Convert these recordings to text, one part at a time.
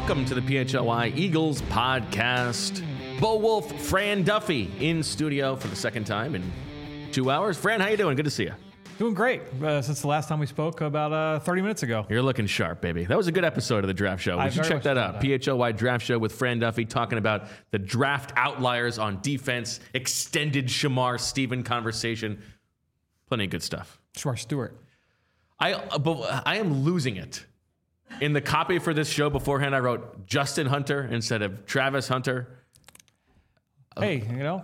Welcome to the PHLY Eagles podcast. Bo Wolf, Fran Duffy in studio for the second time in 2 hours. Fran, how you doing? Good to see you. Doing great since the last time we spoke about 30 minutes ago. You're looking sharp, baby. That was a good episode of the draft show. We should check that out. PHLY draft show with Fran Duffy talking about the draft outliers on defense, extended Shamar Stephen conversation. Plenty of good stuff. Shamar Stewart. I am losing it. In the copy for this show beforehand, I wrote Justin Hunter instead of Travis Hunter. Hey, you know.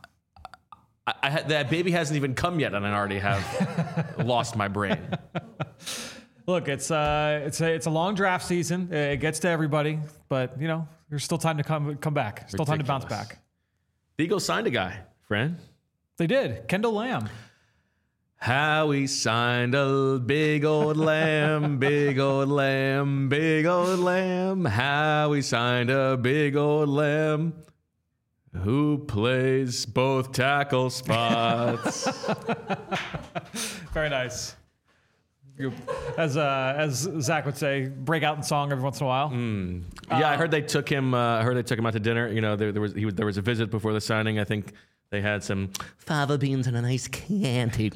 That baby hasn't even come yet, and I already have lost my brain. Look, it's a long draft season. It gets to everybody, but you know, there's still time to come back. Still time to bounce back. The Eagles signed a guy, Fran. They did. Kendall Lamb. How we signed a big old lamb, big old lamb, big old lamb. How we signed a big old lamb. Who plays both tackle spots? Very nice. As Zach would say, break out in song every once in a while. Yeah, I heard they took him. I heard they took him out to dinner. You know, there was a visit before the signing. I think they had some fava beans and a nice Chianti.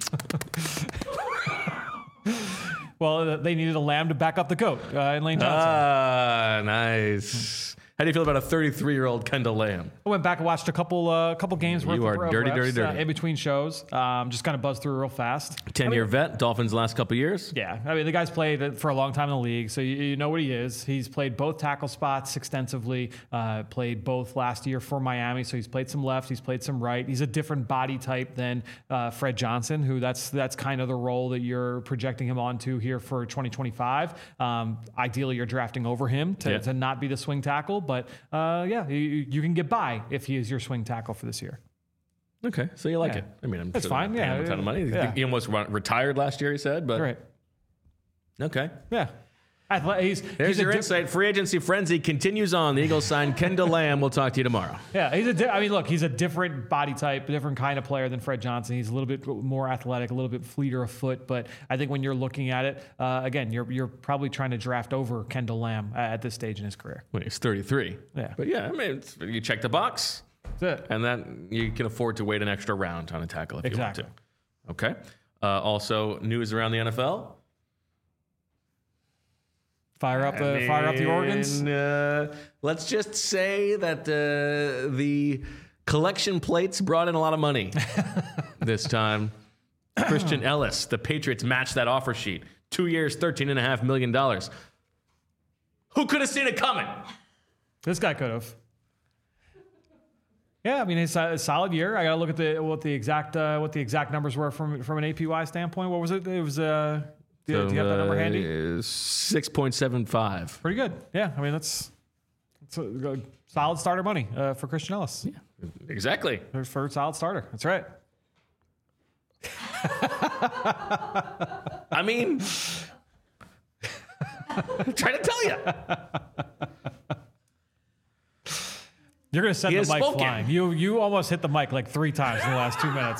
Well, they needed a lamb to back up the goat in Lane Johnson. Nice. How do you feel about a 33-year-old Kendall Lamb? I went back and watched a couple games worth You are dirty in between shows. Just kind of buzzed through real fast. 10-year vet, Dolphins last couple years. Yeah, I mean, the guy's played for a long time in the league, so you know what he is. He's played both tackle spots extensively, played both last year for Miami, so he's played some left, he's played some right. He's a different body type than Fred Johnson, who that's kind of the role that you're projecting him onto here for 2025. Ideally, you're drafting over him to not be the swing tackle. But you can get by if he is your swing tackle for this year. Okay, so you like it. I mean, that's fine. Yeah, a ton of money. Yeah. He almost retired last year, he said. But right. Okay. Yeah. There's your insight. Free agency frenzy continues on. The Eagles signed Kendall Lamb. We'll talk to you tomorrow. Yeah, he's a different body type, a different kind of player than Fred Johnson. He's a little bit more athletic, a little bit fleeter of foot. But I think when you're looking at it, again, you're probably trying to draft over Kendall Lamb at this stage in his career. Well, he's 33. Yeah. But yeah, I mean, you check the box. That's it. And then you can afford to wait an extra round on a tackle if you want to. Okay. Also, news around the NFL. Fire up the organs. Let's just say that the collection plates brought in a lot of money this time. Christian Ellis, the Patriots matched that offer sheet. 2 years, $13.5 million. Who could have seen it coming? This guy could have. Yeah, I mean, it's a solid year. I got to look at what the exact numbers were from an APY standpoint. What was it? It was. Do you have that number handy? 6.75. Pretty good. Yeah, I mean that's a solid starter money for Christian Ellis. Yeah, exactly. For a solid starter. That's right. I mean, I'm trying to tell you. You're going to send the mic flying. You almost hit the mic like 3 times in the last 2 minutes.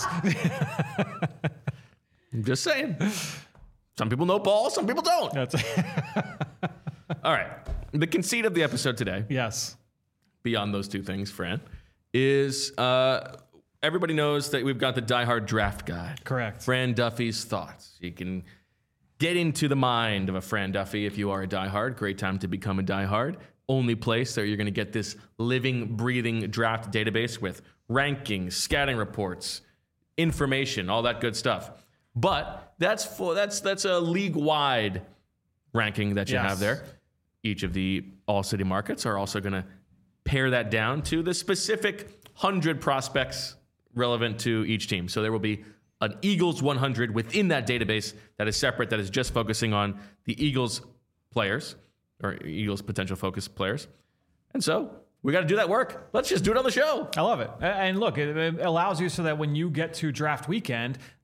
I'm just saying. Some people know ball, some people don't. All right. The conceit of the episode today. Yes. Beyond those two things, Fran, is everybody knows that we've got the Die Hard Draft Guide. Correct. Fran Duffy's thoughts. You can get into the mind of a Fran Duffy if you are a diehard. Great time to become a diehard. Only place that you're going to get this living, breathing draft database with rankings, scouting reports, information, all that good stuff. But that's a league-wide ranking that you have there. Each of the all-city markets are also going to pare that down to the specific 100 prospects relevant to each team. So there will be an Eagles 100 within that database that is separate, that is just focusing on the Eagles players or Eagles potential focus players. And so we got to do that work. Let's just do it on the show. I love it. And look, it allows you so that when you get to draft weekend,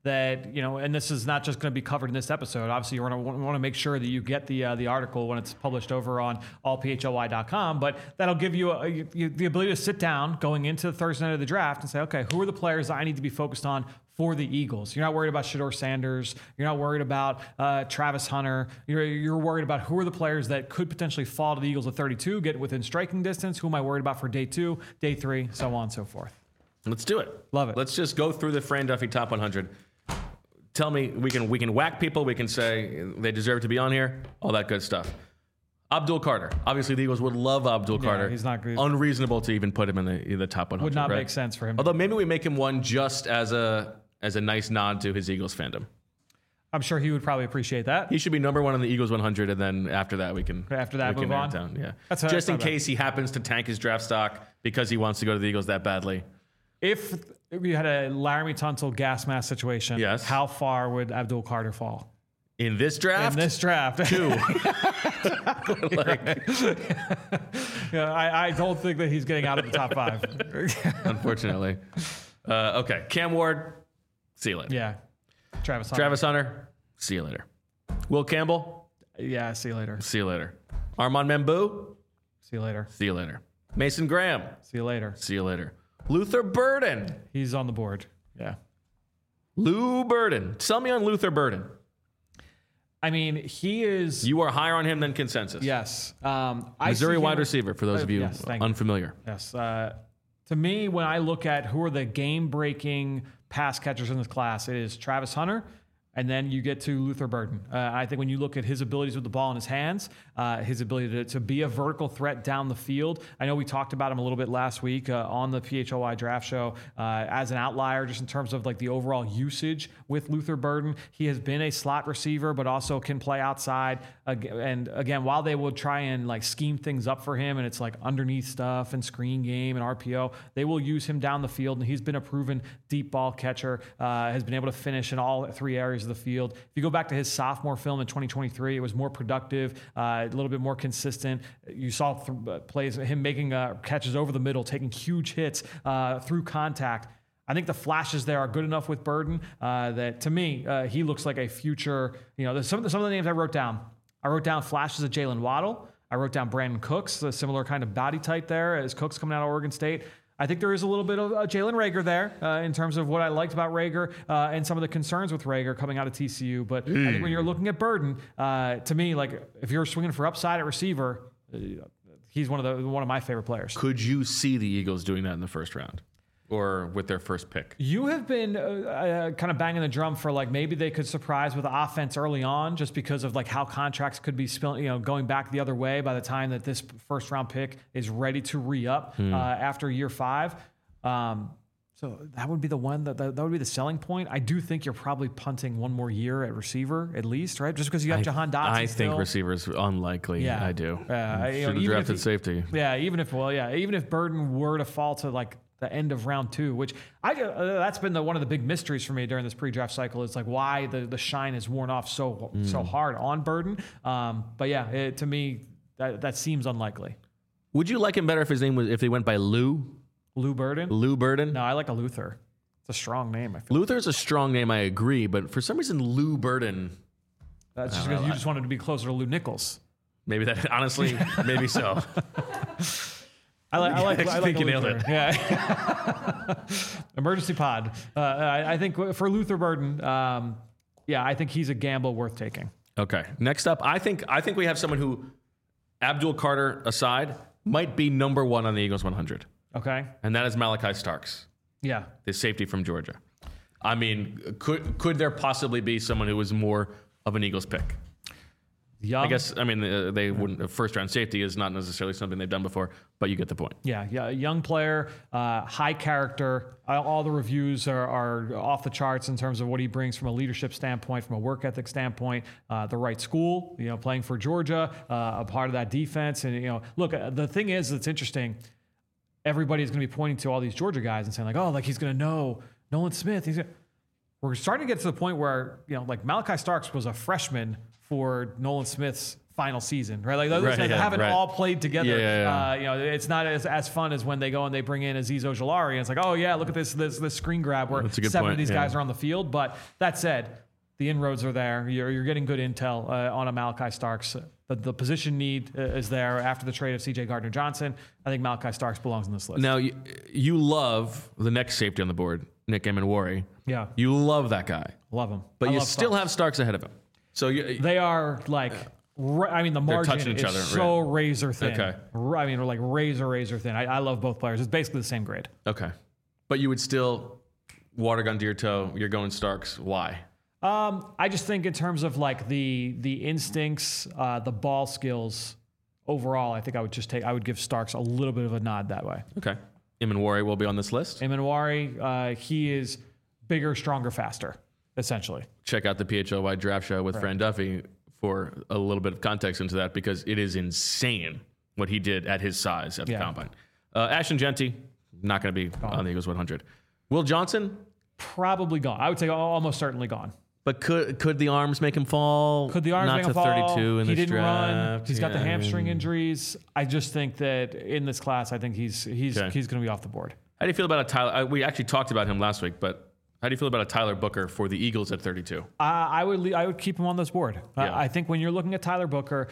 that, and this is not just going to be covered in this episode. Obviously, you want to make sure that you get the article when it's published over on allphly.com, but that'll give you the ability to sit down going into the Thursday night of the draft and say, okay, who are the players that I need to be focused on for the Eagles? You're not worried about Shedeur Sanders. You're not worried about Travis Hunter. You're worried about who are the players that could potentially fall to the Eagles at 32, get within striking distance. Who am I worried about for day 2, day 3, so on and so forth. Let's do it. Love it. Let's just go through the Fran Duffy top 100. Tell me, we can whack people. We can say they deserve to be on here. All that good stuff. Abdul Carter. Obviously, the Eagles would love Abdul Carter. He's not good. Unreasonable to even put him in the top 100. Would not right? make sense for him. Although maybe we make him one just as a nice nod to his Eagles fandom. I'm sure he would probably appreciate that. He should be number 1 on the Eagles 100, and then after that we can move narrow on. it down. Yeah, That's just in case he happens to tank his draft stock because he wants to go to the Eagles that badly. If you had a Laramie Tunsil gas mask situation, yes, how far would Abdul Carter fall? In this draft? In this draft. 2. I don't think that he's getting out of the top 5. Unfortunately. Okay. Cam Ward, see you later. Yeah. Travis Hunter, see you later. Will Campbell? Yeah, see you later. See you later. Armand Membou? See you later. See you later. Mason Graham? See you later. See you later. Luther Burden? He's on the board. Yeah. Lou Burden. Sell me on Luther Burden. I mean, he is... You are higher on him than consensus. Yes. Missouri wide receiver, for those of you unfamiliar. Yes. To me, when I look at who are the game-breaking pass catchers in this class, it is Travis Hunter, and then you get to Luther Burden. I think when you look at his abilities with the ball in his hands, his ability to be a vertical threat down the field. I know we talked about him a little bit last week on the PHLY draft show as an outlier, just in terms of like the overall usage with Luther Burden. He has been a slot receiver, but also can play outside. And again, while they will try and like scheme things up for him, and it's like underneath stuff and screen game and RPO, they will use him down the field. And he's been a proven deep ball catcher, has been able to finish in all 3 areas of the field. If you go back to his sophomore film in 2023, it was more productive, a little bit more consistent. You saw plays, him making catches over the middle, taking huge hits through contact. I think the flashes there are good enough with Burden that, to me, he looks like a future. Some of the names I wrote down. I wrote down flashes of Jalen Waddle. I wrote down Brandon Cooks, a similar kind of body type there as Cooks coming out of Oregon State. I think there is a little bit of Jalen Reagor there in terms of what I liked about Reagor and some of the concerns with Reagor coming out of TCU. But I think when you're looking at Burden, to me, like if you're swinging for upside at receiver, he's one of my favorite players. Could you see the Eagles doing that in the first round? Or with their first pick? You have been kind of banging the drum for like maybe they could surprise with offense early on, just because of like how contracts could be going back the other way by the time that this first round pick is ready to re-up after year 5. So that would be the one that would be the selling point. I do think you're probably punting one more year at receiver at least, right? Just because you have Jahan Dotson. I think receivers unlikely. Yeah, I do. Should have drafted safety. Yeah, even if Burden were to fall to like the end of round 2, which that's been one of the big mysteries for me during this pre-draft cycle. It's like why the shine is worn off so hard on Burden. But yeah, to me that seems unlikely. Would you like him better if they went by Lou Burden? Lou Burden? No, I like a Luther. It's a strong name. I feel Luther's a strong name, I agree, but for some reason Lou Burden. That's just because you just wanted to be closer to Lou Nichols. Maybe that honestly, maybe so. I think you nailed it. Yeah. Emergency pod. I think for Luther Burden, I think he's a gamble worth taking. Okay. Next up, I think we have someone who, Abdul Carter aside, might be number 1 on the Eagles 100. Okay. And that is Malachi Starks. Yeah. The safety from Georgia. I mean, could there possibly be someone who was more of an Eagles pick? Young. I guess, they wouldn't. First round safety is not necessarily something they've done before, but you get the point. Yeah. Young player, high character. All the reviews are off the charts in terms of what he brings from a leadership standpoint, from a work ethic standpoint. The right school, playing for Georgia, a part of that defense. And, look, the thing is, it's interesting. Everybody is going to be pointing to all these Georgia guys and saying like, he's going to know Nolan Smith. We're starting to get to the point where, like Malachi Starks was a freshman for Nolan Smith's final season, right? Like those guys haven't all played together. You know, it's not as fun as when they go and they bring in Azeez Ojulari and it's like, oh yeah, look at this screen grab where 7 of these guys are on the field. But that said, the inroads are there. You're getting good intel on a Malachi Starks. The position need is there after the trade of C.J. Gardner-Johnson. I think Malachi Starks belongs on this list. Now, you love the next safety on the board, Nick Emenwari. Yeah. You love that guy. Love him. But you still have Starks ahead of him. So they are like... I mean, the margin is so razor thin. Okay. I mean, like razor thin. I love both players. It's basically the same grade. Okay. But you would still, water gun to your toe, you're going Starks. Why? I just think in terms of like the instincts, the ball skills overall, I think I would give Starks a little bit of a nod that way. Okay. Emenwari will be on this list. Emenwari, he is bigger, stronger, faster, essentially. Check out the PHLY draft show with Fran Duffy for a little bit of context into that, because it is insane what he did at his size at the combine. Ashton Jeanty, not going to be on the Eagles 100. Will Johnson? Probably gone. I would say almost certainly gone. But could the arms make him fall? Could the arms not make him to fall? 32 in he this didn't draft? run. He's got the hamstring injuries. I just think that in this class, I think he's going to be off the board. How do you feel about a Tyler? We actually talked about him last week, but how do you feel about a Tyler Booker for the Eagles at 32? I would keep him on this board. I think when you're looking at Tyler Booker,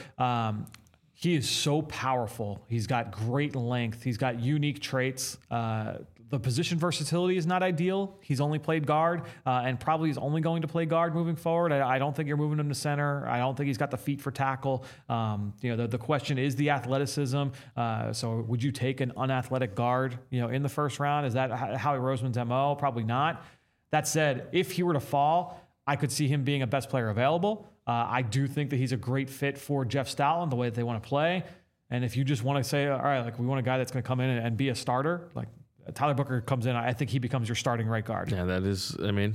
he is so powerful. He's got great length. He's got unique traits. The position versatility is not ideal. He's only played guard, and probably is only going to play guard moving forward. I don't think you're moving him to center. I don't think he's got the feet for tackle. The question is the athleticism. So would you take an unathletic guard, in the first round? Is that Howie Roseman's MO? Probably not. That said, if he were to fall, I could see him being a best player available. I do think that he's a great fit for Jeff Stoutland, the way that they want to play. And if you just want to say, all right, like we want a guy that's going to come in and be a starter, like Tyler Booker comes in, I think he becomes your starting right guard. Yeah, that is,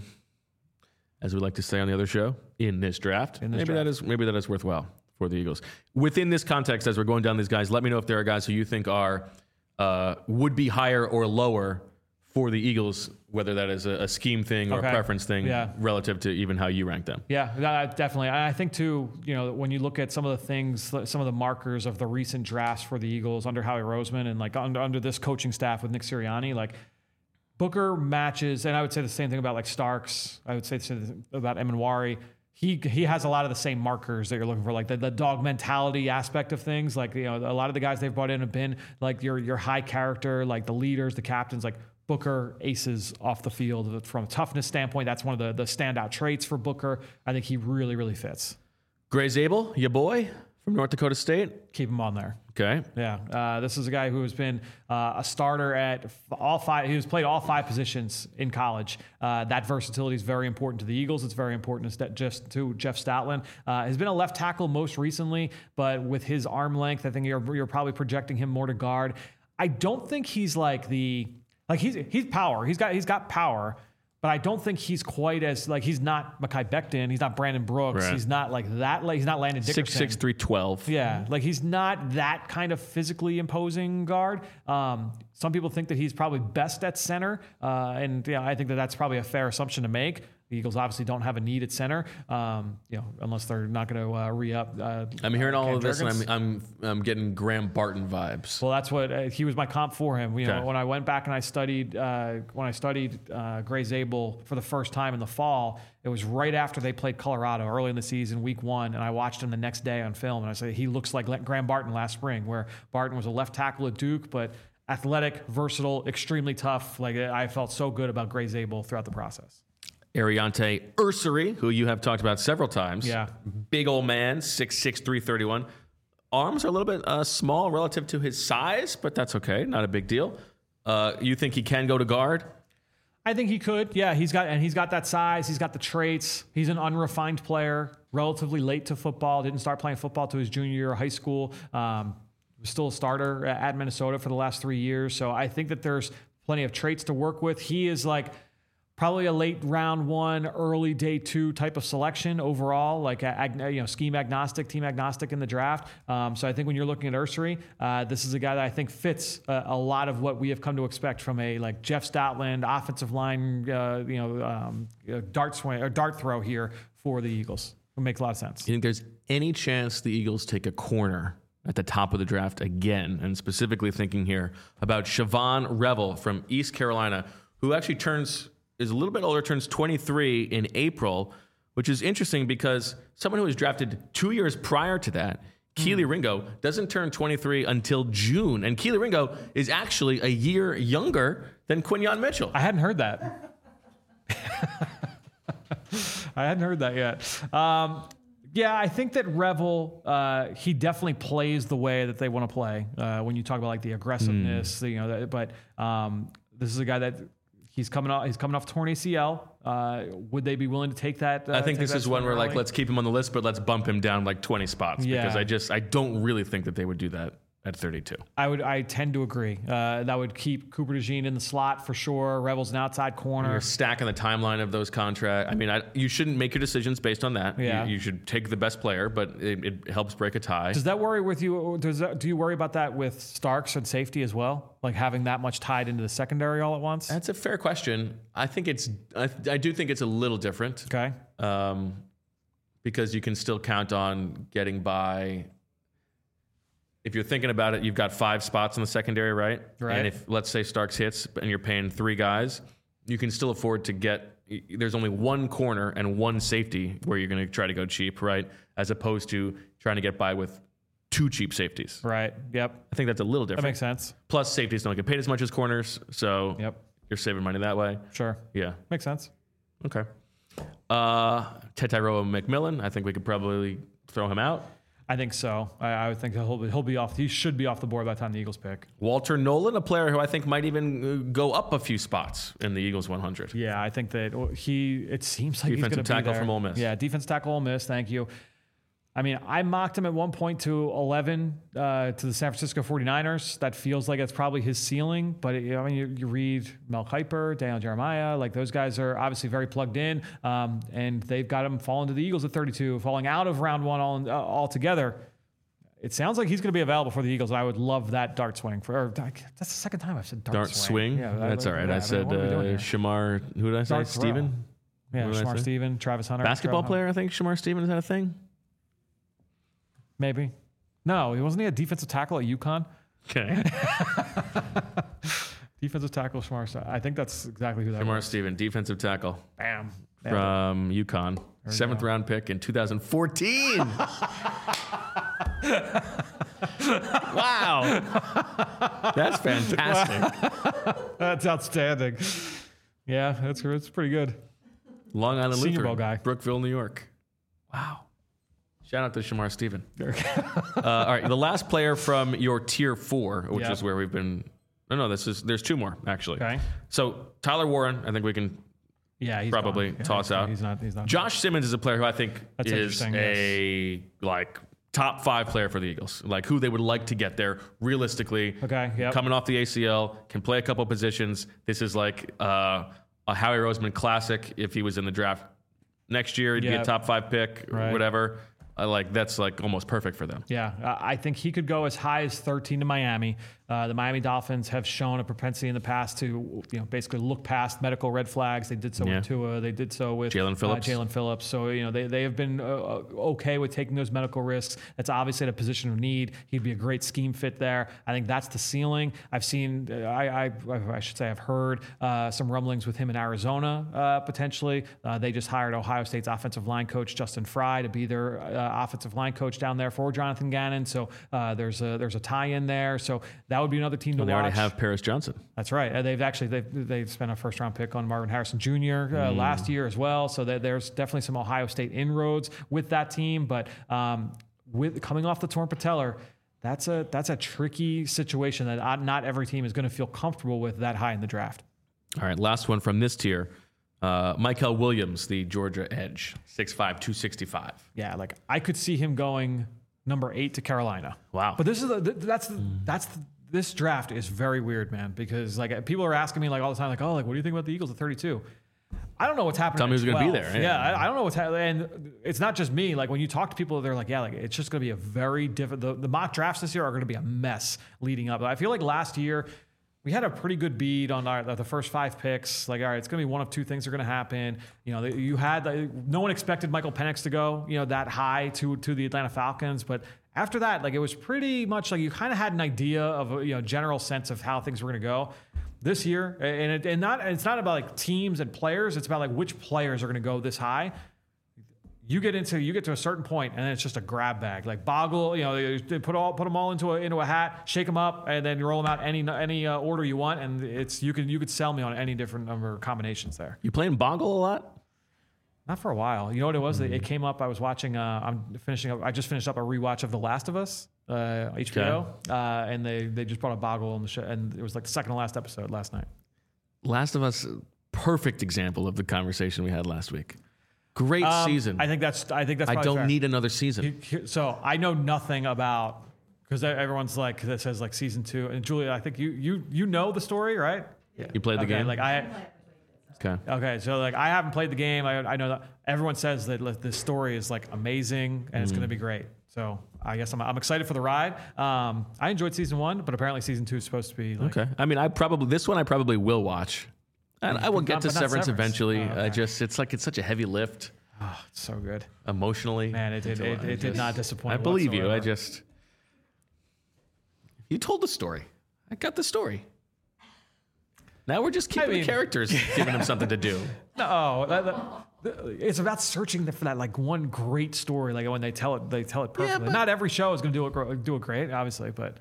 as we like to say on the other show, in this draft. Maybe that is worthwhile for the Eagles. Within this context, as we're going down these guys, let me know if there are guys who you think are would be higher or lower for the Eagles, whether that is a scheme thing or a preference thing, relative to even how you rank them. Yeah, definitely. I think too, when you look at some of the things, some of the markers of the recent drafts for the Eagles under Howie Roseman and like under this coaching staff with Nick Sirianni, like Booker matches, and I would say the same thing about like Starks. I would say the same thing about Emenwari. He has a lot of the same markers that you're looking for, like the dog mentality aspect of things. Like, a lot of the guys they've brought in have been like your high character, like the leaders, the captains, like Booker aces off the field from a toughness standpoint. That's one of the standout traits for Booker. I think he really, really fits. Gray Zabel, your boy from North Dakota State. Keep him on there. Okay. Yeah. This is a guy who has been a starter at all 5. He has played all 5 positions in college. That versatility is very important to the Eagles. It's very important to Jeff Stoutland. Has been a left tackle most recently, but with his arm length, I think you're probably projecting him more to guard. I don't think he's like he's power. He's got power, but I don't think he's quite as he's not Mekhi Becton. He's not Brandon Brooks. Right. He's not like that. Like he's not Landon Dickerson. 6'6", 312. Yeah, like he's not that kind of physically imposing guard. Some people think that he's probably best at center, and I think that that's probably a fair assumption to make. The Eagles obviously don't have a need at center, unless they're not going to re-up. I'm hearing all of this, and I'm getting Graham Barton vibes. Well, that's what he was my comp for him. When I went back and I studied Gray Zabel for the first time in the fall, it was right after they played Colorado early in the season, week 1, and I watched him the next day on film, and I said he looks like Graham Barton last spring, where Barton was a left tackle at Duke, but athletic, versatile, extremely tough. Like I felt so good about Gray Zabel throughout the process. Ariante Ursary, who you have talked about several times. Yeah. Big old man, 6'6", 331. Arms are a little bit small relative to his size, but that's okay. Not a big deal. You think he can go to guard? I think he could. Yeah, he's got that size. He's got the traits. He's an unrefined player, relatively late to football. Didn't start playing football to his junior year of high school. Was still a starter at Minnesota for the last 3 years. So I think that there's plenty of traits to work with. He is like probably a late round 1, early day 2 type of selection overall, like scheme agnostic, team agnostic in the draft. So I think when you're looking at Ursary, this is a guy that I think fits a lot of what we have come to expect from a like Jeff Stoutland offensive line, dart throw here for the Eagles. It makes a lot of sense. You think there's any chance the Eagles take a corner at the top of the draft again? And specifically thinking here about Siobhan Revel from East Carolina, who actually is a little bit older, turns 23 in April, which is interesting because someone who was drafted 2 years prior to that, Keely Ringo, doesn't turn 23 until June. And Keely Ringo is actually a year younger than Quinyon Mitchell. I hadn't heard that. I hadn't heard that yet. Yeah, I think that Revel, he definitely plays the way that they want to play. When you talk about like the aggressiveness, but this is a guy that he's coming off torn ACL. Would they be willing to take that? I think this is one where like, let's keep him on the list, but let's bump him down like 20 spots because I don't really think that they would do that at 32. I tend to agree. That would keep Cooper DeJean in the slot for sure. Revel's an outside corner. You're stacking the timeline of those contracts. I mean, you shouldn't make your decisions based on that. Yeah. You should take the best player, but it helps break a tie. Does that worry with you? Do you worry about that with Starks and safety as well? Like having that much tied into the secondary all at once? That's a fair question. I do think it's a little different. Okay. Because you can still count on getting by. If you're thinking about it, you've got 5 spots in the secondary, right? Right. And if, let's say, Starks hits and you're paying 3 guys, you can still afford to there's only 1 corner and 1 safety where you're going to try to go cheap, right? As opposed to trying to get by with 2 cheap safeties. Right. Yep. I think that's a little different. That makes sense. Plus, safeties don't get paid as much as corners, so you're saving money that way. Sure. Yeah. Makes sense. Okay. Tetairoa McMillan, I think we could probably throw him out. I think so. I would think he'll be off. He should be off the board by the time the Eagles pick. Walter Nolan, a player who I think might even go up a few spots in the Eagles 100. Yeah, I think that it seems like defensive he's going to be there. Defensive tackle from Ole Miss. Yeah, defensive tackle Ole Miss. Thank you. I mean, I mocked him at one point to 11 to the San Francisco 49ers. That feels like it's probably his ceiling. But you read Mel Kiper, Daniel Jeremiah, like those guys are obviously very plugged in, and they've got him falling to the Eagles at 32, falling out of round 1 altogether. It sounds like he's going to be available for the Eagles. I would love that dart swing. That's the second time I've said dart swing. Yeah, that's all right. I said Shamar. Who did I say? Steven. Yeah, Shamar Steven, Travis Hunter. Basketball player. I think Shamar Steven, is that a thing? Maybe. No, wasn't he a defensive tackle at UConn? Okay. Defensive tackle, Shamar. I think that's exactly who that was. Shamar Steven, defensive tackle. Bam. From UConn. 7th round pick in 2014. Wow. That's fantastic. That's outstanding. Yeah, that's pretty good. Long Island Senior Lutheran, Bowl guy. Brookville, New York. Wow. Shout out to Shamar Steven. All right, the last player from your tier 4, which is where we've been. No, there's 2 more actually. Okay. So Tyler Warren, I think we can he's probably gone. toss out. He's not. Josh Simmons is a player who I think That's is a top 5 player for the Eagles, like who they would like to get there realistically. Okay. Yep. Coming off the ACL, can play a couple positions. This is like a Howie Roseman classic. If he was in the draft next year, he'd be a top 5 pick, or whatever. That's like almost perfect for them. Yeah, I think he could go as high as 13 to Miami. The Miami Dolphins have shown a propensity in the past to, basically look past medical red flags. They did so with Tua. They did so with Jalen Phillips. So, they have been okay with taking those medical risks. That's obviously at a position of need. He'd be a great scheme fit there. I think that's the ceiling. I've seen, I should say I've heard some rumblings with him in Arizona, potentially. They just hired Ohio State's offensive line coach, Justin Fry, to be their offensive line coach down there for Jonathan Gannon. So there's a tie-in there. So that would be another team to watch. They already have Paris Johnson. That's right. They've spent a first-round pick on Marvin Harrison Jr. Last year as well. So there's definitely some Ohio State inroads with that team. But with coming off the torn patellar, that's a tricky situation that not every team is going to feel comfortable with that high in the draft. All right, last one from this tier. Michael Williams, the Georgia edge, 6'5", 265. Yeah, I could see him going number 8 to Carolina. Wow. But this draft is very weird, man, because people are asking me all the time, what do you think about the Eagles at 32? I don't know what's happening. Tell me who's going to be there. Yeah, I don't know what's happening. And it's not just me. When you talk to people, they're it's just going to be a very different. The mock drafts this year are going to be a mess leading up. I feel like last year, we had a pretty good bead on the first 5 picks. Like, all right, it's going to be one of 2 things are going to happen. You know, you had no one expected Michael Penix to go, you know, that high to the Atlanta Falcons, but after that, like, it was pretty much like you kind of had an idea of a, you know, general sense of how things were going to go this year. And it's not about like teams and players. It's about like which players are going to go this high. You get to a certain point, and then it's just a grab bag. Like Boggle, you know, they put them all into a hat, shake them up, and then you roll them out any order you want, and you could sell me on any different number of combinations there. You playing Boggle a lot? Not for a while. You know what it was? It came up. I was watching. I just finished up a rewatch of The Last of Us, HBO, and they just brought a Boggle on the show, and it was like the second to last episode last night. Last of Us, perfect example of the conversation we had last week. Great season. I think that's. I don't fair. need another season. So I know nothing about, because everyone's like that says like season 2. And Julia, I think you know the story, right? Yeah. You played the game. Like Okay, so like I haven't played the game. I know that everyone says that the story is like amazing and it's going to be great. So I guess I'm excited for the ride. I enjoyed season 1, but apparently season 2 is supposed to be like, okay. I mean, I probably will watch. And I will get to Severance eventually. Oh, okay. it's such a heavy lift. Oh, it's so good. Emotionally. Man, it did not disappoint. I believe whatsoever. you. You told the story. I got the story. Now we're just keeping the characters, giving them something to do. No, it's about searching for that like one great story. Like when they tell it perfectly. Yeah, but not every show is going to do it great, obviously, but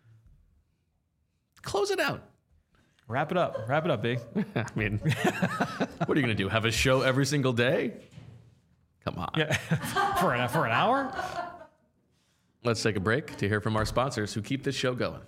close it out. Wrap it up, B. I mean, what are you going to do? Have a show every single day? Come on. Yeah, for an hour. Let's take a break to hear from our sponsors who keep this show going.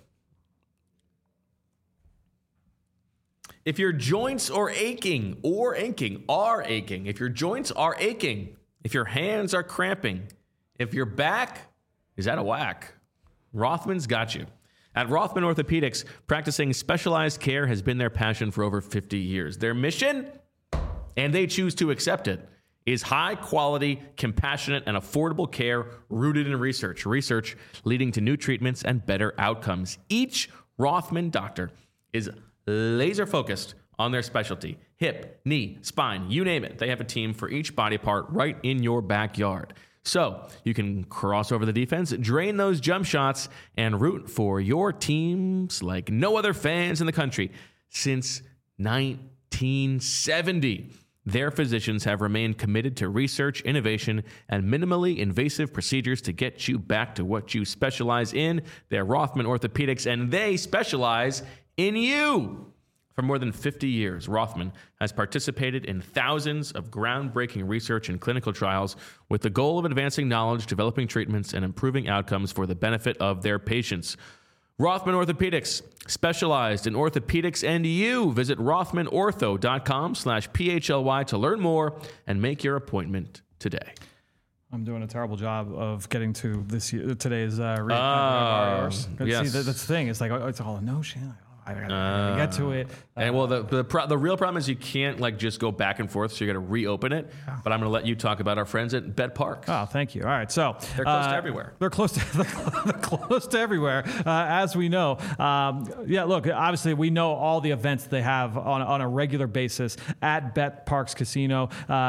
If your joints are aching, if your joints are aching, if your hands are cramping, if your back is out of whack, Rothman's got you. At Rothman Orthopedics, practicing specialized care has been their passion for over 50 years. Their mission, and they choose to accept it, is high quality, compassionate, and affordable care rooted in research. Research leading to new treatments and better outcomes. Each Rothman doctor is laser focused on their specialty. Hip, knee, spine, you name it. They have a team for each body part right in your backyard. So you can cross over the defense, drain those jump shots, and root for your teams like no other fans in the country. Since 1970, their physicians have remained committed to research, innovation, and minimally invasive procedures to get you back to what you specialize in. They're Rothman Orthopedics, and they specialize in you. For more than 50 years, Rothman has participated in thousands of groundbreaking research and clinical trials with the goal of advancing knowledge, developing treatments, and improving outcomes for the benefit of their patients. Rothman Orthopedics, specialized in orthopedics and you. Visit rothmanortho.com/PHLY to learn more and make your appointment today. I'm doing a terrible job of getting to today's yes. See, that's the thing. It's like, it's all a notion. I gotta get to it. And well, the real problem is you can't like just go back and forth, so you got to reopen it. Yeah. But I'm going to let you talk about our friends at Bet Parks. Oh, thank you. All right, so they're close to everywhere. They're close to everywhere, as we know. Yeah, look, obviously we know all the events they have on a regular basis at Bet Parks Casino.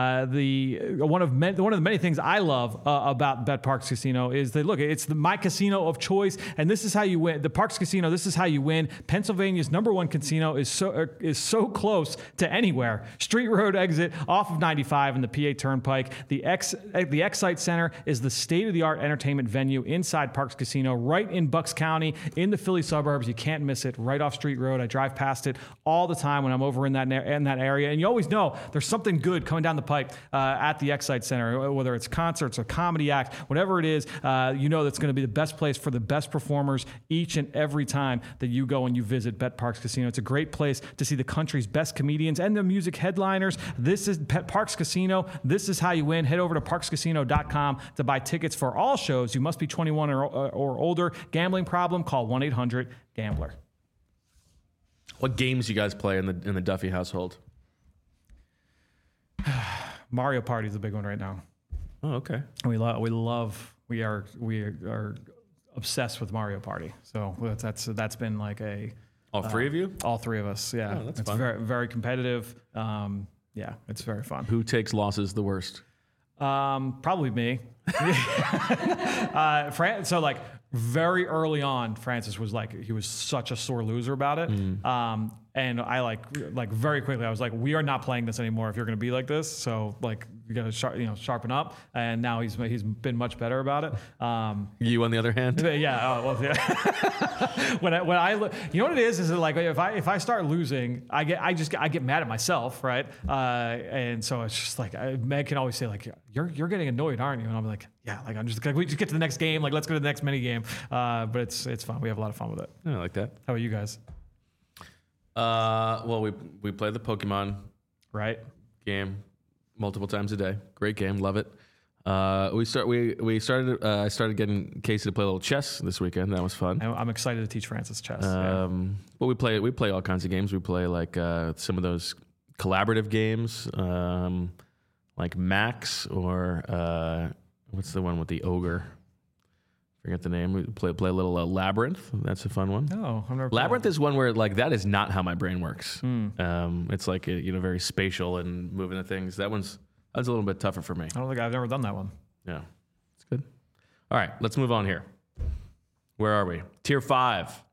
One of the many things I love about Bet Parks Casino is that it's my casino of choice, and this is how you win. The Parks Casino, this is how you win. Pennsylvania's #1 casino is so close to anywhere. Street Road exit off of 95 and the PA Turnpike. The Excite Center is the state-of-the-art entertainment venue inside Parks Casino, right in Bucks County, in the Philly suburbs. You can't miss it. Right off Street Road. I drive past it all the time when I'm over in that area, and you always know there's something good coming down the pipe at the Excite Center, whether it's concerts or comedy act, whatever it is. You know that's going to be the best place for the best performers each and every time that you go and you visit Bet Parks Casino. It's a great place to see the country's best comedians and the music headliners. This is Bet Parks Casino. This is how you win. Head over to parkscasino.com to buy tickets for all shows. You must be 21 or older. Gambling problem? Call 1-800-GAMBLER. What games you guys play in the Duffy household? Mario Party is a big one right now. Oh, okay. We are obsessed with Mario Party. So that's been like a All three of you? All three of us. Yeah, Oh, that's it's fun. very very competitive. Yeah, it's very fun. Who takes losses the worst? Probably me. So like very early on, Francis was like, he was such a sore loser about it. And I like very quickly, I was like, we are not playing this anymore if you're going to be like this. So like, you got to sharpen up. And now he's been much better about it. You, on the other hand? Yeah. Oh, well, yeah. when I you know what it is that like if I start losing, I get mad at myself, right? And so it's just like Meg can always say like, you're getting annoyed, aren't you? And I'm like, yeah, like I'm just like, we just get to the next game, like let's go to the next mini game. But it's fun. We have a lot of fun with it. I like that. How about you guys? Well, we play the Pokemon Right. game multiple times a day. Great game, love it. I started getting Casey to play a little chess this weekend. That was fun. I'm excited to teach Francis chess. But we play all kinds of games. We play like some of those collaborative games, like Max or what's the one with the ogre? Forget the name. We play a little Labyrinth. That's a fun one. Oh, I've never played Labyrinth is one where like that is not how my brain works. It's like very spatial and moving the things. That's a little bit tougher for me. I don't think I've never done that one. Yeah, it's good. All right, let's move on here. Where are we? Tier 5.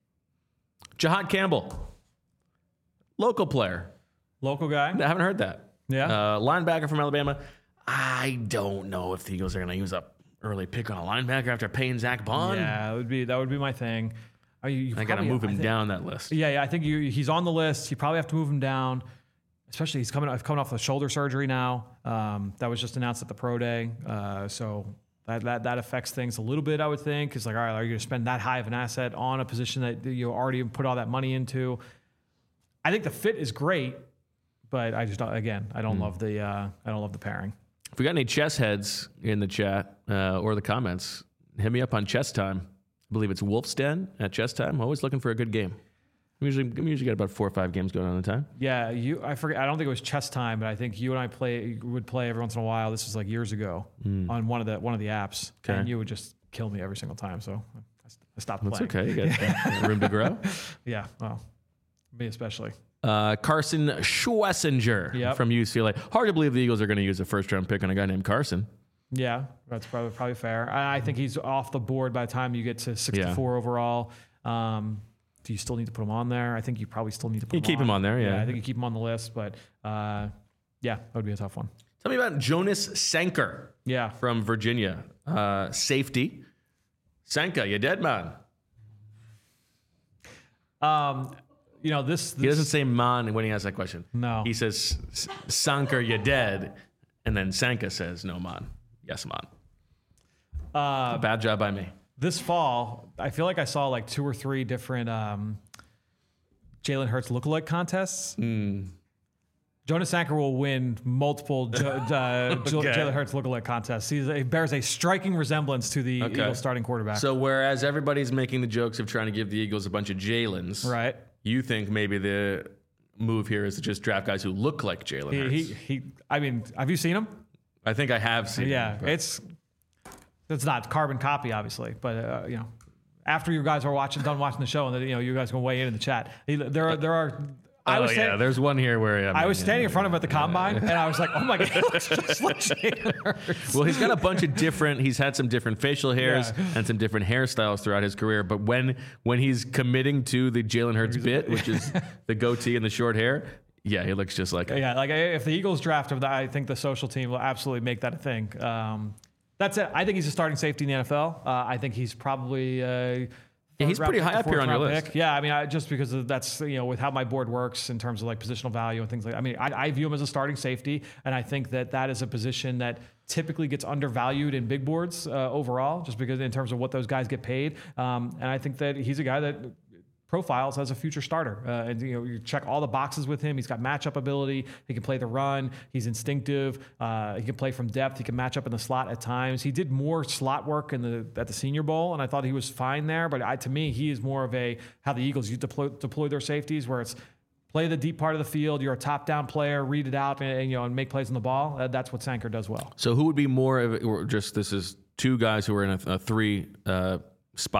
Jahad Campbell, local player. Local guy. I haven't heard that. Yeah. Linebacker from Alabama. I don't know if the Eagles are going to use a early pick on a linebacker after paying Zach Bond. Yeah, that would be my thing. I got to move him down that list. Yeah, I think he's on the list. You probably have to move him down, especially he's coming off the shoulder surgery now. That was just announced at the pro day, so that affects things a little bit. I would think it's like, all right, are you going to spend that high of an asset on a position that you already put all that money into? I think the fit is great, but I just I don't love the pairing. If we got any chess heads in the chat or the comments, hit me up on Chess Time. I believe it's Wolf's Den at Chess Time. Always looking for a good game. We usually get about 4 or 5 games going on at a time. Yeah, I forget. I don't think it was Chess Time, but I think you and I would play every once in a while. This was like years ago on one of the apps, Okay. and you would just kill me every single time. So I stopped playing. That's okay. You got room to grow. Yeah, well, me especially. Carson Schwessinger from UCLA. Hard to believe the Eagles are going to use a first-round pick on a guy named Carson. Yeah, that's probably fair. I think he's off the board by the time you get to 64 overall. Do you still need to put him on there? I think you probably still need to put him on. You keep him on there, yeah. I think you keep him on the list, but yeah, that would be a tough one. Tell me about Jonas Sanker from Virginia. Safety. Sanka, you dead, man. This He doesn't say man when he asks that question. No. He says, Sanker, you dead. And then Sanka says, no, man. Yes, man. Bad job by me. This fall, I feel like I saw like 2 or 3 different Jalen Hurts lookalike contests. Jonas Sanker will win multiple Jalen Hurts lookalike contests. He bears a striking resemblance to the Eagles starting quarterback. So whereas everybody's making the jokes of trying to give the Eagles a bunch of Jalens, right? You think maybe the move here is to just draft guys who look like Jalen Hurts. I mean, have you seen him? I think I have seen him. Yeah, it's not carbon copy, obviously, but after you guys are done watching the show, and then you guys can weigh in the chat. There are. There's one here where I was standing in front of him at the combine, and I was like, "Oh my god, he looks just like Jalen Hurts." Well, he's got a bunch of different. He's had some different facial hairs and some different hairstyles throughout his career. But when he's committing to the Jalen Hurts bit, which is the goatee and the short hair, yeah, he looks just like him. Yeah, like if the Eagles draft him, I think the social team will absolutely make that a thing. That's it. I think he's a starting safety in the NFL. I think he's probably. He's pretty high up here on your list. Pick. Yeah, I mean, just because that's with how my board works in terms of like positional value and things like that. I mean, I view him as a starting safety, and I think that is a position that typically gets undervalued in big boards overall, just because in terms of what those guys get paid. And I think that he's a guy that profiles as a future starter. And you check all the boxes with him. He's got matchup ability. He can play the run. He's instinctive. He can play from depth. He can match up in the slot at times. He did more slot work at the Senior Bowl, and I thought he was fine there. But to me, he is more of how the Eagles deploy their safeties, where it's play the deep part of the field. You're a top-down player. Read it out and make plays on the ball. That's what Sanker does well. So who would be more of this is 2 guys who are in a 3 spot